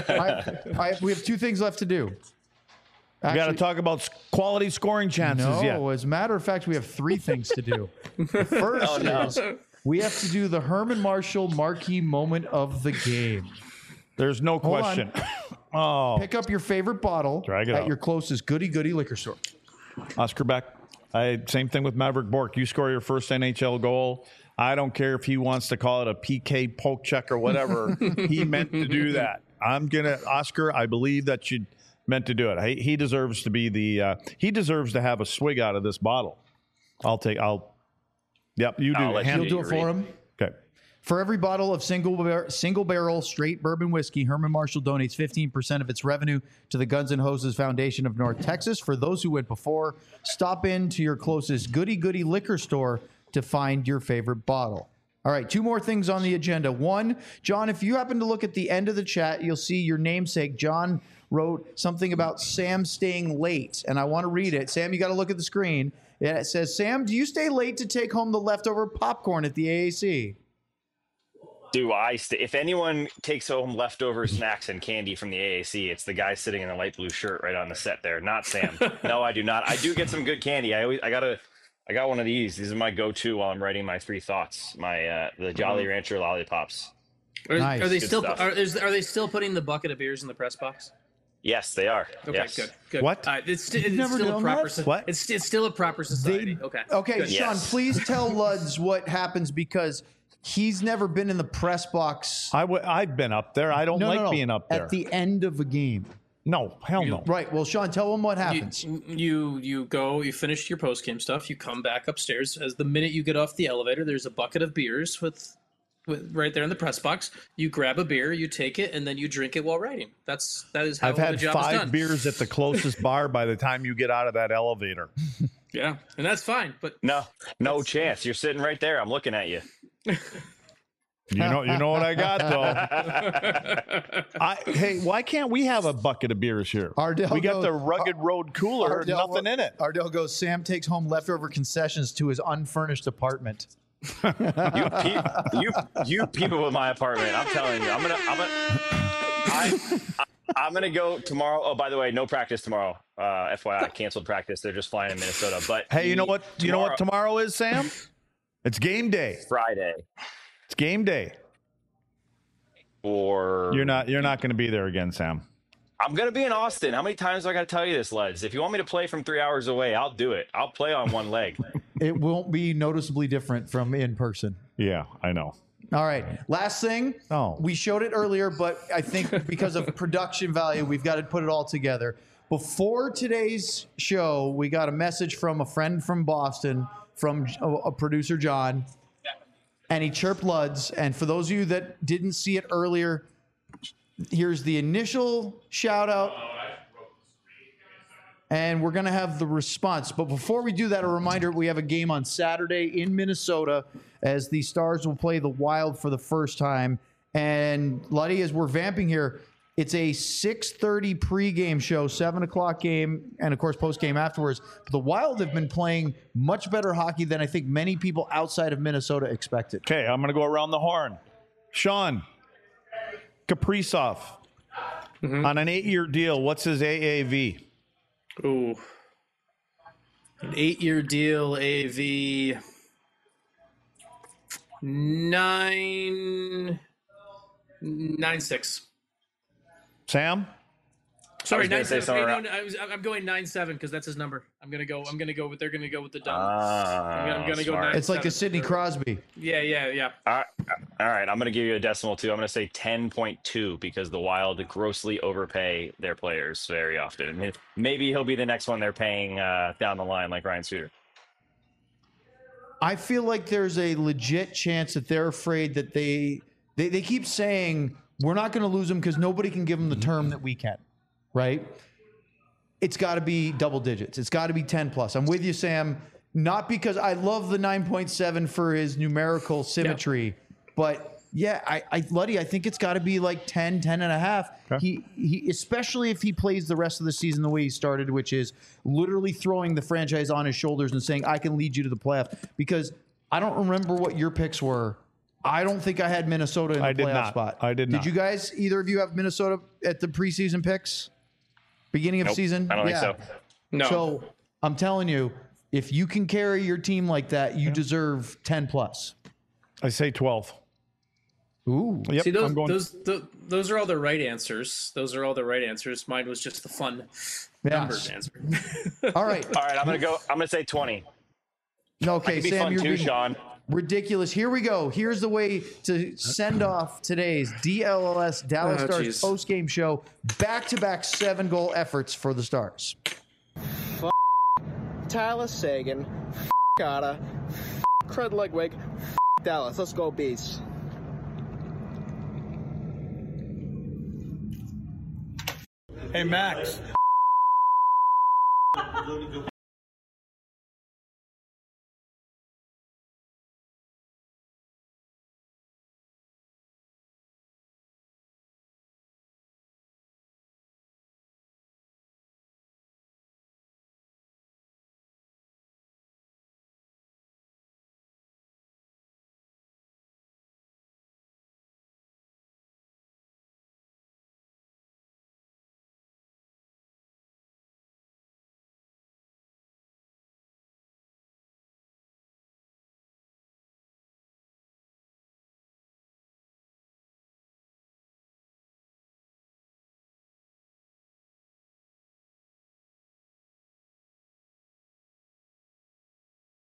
We have 2 things left to do. We got to talk about quality scoring chances. No, as a matter of fact, we have 3 things to do. The first is we have to do the Herman Marshall marquee moment of the game. There's no question. Pick up your favorite bottle at your closest goody liquor store. Oscar Beck. Same thing with Maverick Bourque. You score your first NHL goal. I don't care if he wants to call it a PK poke check or whatever. He meant to do that. Oscar, I believe that you meant to do it. He deserves to be he deserves to have a swig out of this bottle. You do it. You'll do it for him. Okay. For every bottle of single barrel straight bourbon whiskey, Herman Marshall donates 15% of its revenue to the Guns N' Hoses Foundation of North Texas. For those who went before, stop in to your closest goody liquor store to find your favorite bottle. All right, 2 more things on the agenda. 1, John, if you happen to look at the end of the chat, you'll see your namesake, John, wrote something about Sam staying late, and I want to read it. Sam, you got to look at the screen. It says, Sam, do you stay late to take home the leftover popcorn at the AAC? Do I stay? If anyone takes home leftover snacks and candy from the AAC, it's the guy sitting in a light blue shirt right on the set there, not Sam. No, I do not. I do get some good candy. I got one of these. These are my go-to while I'm writing my 3 thoughts. The Jolly Rancher lollipops. Nice. Are they still putting the bucket of beers in the press box? Yes, they are. Okay, yes. good. What? It's still a proper. What? It's still a proper society. Okay, good. Sean, please tell Luds what happens because he's never been in the press box. I've been up there. I don't like being up there. At the end of a game. No, hell no. Right. Well, Sean, tell him what happens. You go, you finish your post-game stuff, you come back upstairs. As the minute you get off the elevator, there's a bucket of beers with right there in the press box. You grab a beer, you take it, and then you drink it while writing. That is how I've the had job is done. 5 beers at the closest bar by the time you get out of that elevator. Yeah, and that's fine. But no chance. You're sitting right there. I'm looking at you. You know what I got though. Hey, why can't we have a bucket of beers here? We got the Rugged Road cooler, nothing in it. Ardell goes, Sam takes home leftover concessions to his unfurnished apartment. You people with my apartment. I'm telling you, I'm gonna go tomorrow. Oh, by the way, no practice tomorrow. FYI, canceled practice. They're just flying in Minnesota. But hey, you know what? You know what tomorrow is, Sam? It's game day. Friday. It's game day. Or you're not going to be there again, Sam. I'm going to be in Austin. How many times do I got to tell you this, Leds? If you want me to play from 3 hours away, I'll do it. I'll play on one leg. It won't be noticeably different from in person. Yeah, I know. All right. Last thing. We showed it earlier, but I think because of production value, we've got to put it all together. Before today's show, we got a message from a friend from Boston, from a producer, John, and he chirped Luds. And for those of you that didn't see it earlier, here's the initial shout out. And we're going to have the response. But before we do that, a reminder, we have a game on Saturday in Minnesota as the Stars will play the Wild for the first time. And Luddy, as we're vamping here, it's a 6:30 pregame show, 7 o'clock game, and of course postgame afterwards. But the Wild have been playing much better hockey than I think many people outside of Minnesota expected. Okay, I'm going to go around the horn. Sean, Kaprizov, on an 8-year deal, what's his AAV? Ooh. An 8-year deal, AAV 9.96. Sam? Sorry, 9.7. I'm going 9.7 because that's his number. They're gonna go with the dumb. I'm gonna go 9.7. It's like a Sidney Crosby. Yeah. All right. I'm gonna give you a decimal too. I'm gonna say 10.2 because the Wild grossly overpay their players very often. I mean, maybe he'll be the next one they're paying down the line, like Ryan Suter. I feel like there's a legit chance that they're afraid that they keep saying we're not going to lose them because nobody can give them the term that we can, right? It's got to be double digits. It's got to be 10 plus. I'm with you, Sam. Not because I love the 9.7 for his numerical symmetry, but Yeah, Luddy, I think it's got to be like 10 and a half. Okay. He especially if he plays the rest of the season the way he started, which is literally throwing the franchise on his shoulders and saying, I can lead you to the playoff. Because I don't remember what your picks were. I don't think I had Minnesota in the playoff spot. I did not. Did you guys, either of you, have Minnesota at the preseason picks? Beginning of season? I don't think so. No. So I'm telling you, if you can carry your team like that, you deserve 10 plus. I say 12. Ooh. Yep, See, those are all the right answers. Those are all the right answers. Mine was just the fun numbers answer. All right. I'm gonna say 20. Okay, Sam, you're being Sean. Ridiculous. Here we go. Here's the way to send off today's DLLS Dallas Stars post-game show. Back-to-back 7-goal efforts for the Stars. Tyler Seguin. Otta. Craig Ludwig. Dallas. Let's go, Bees. Hey, Max.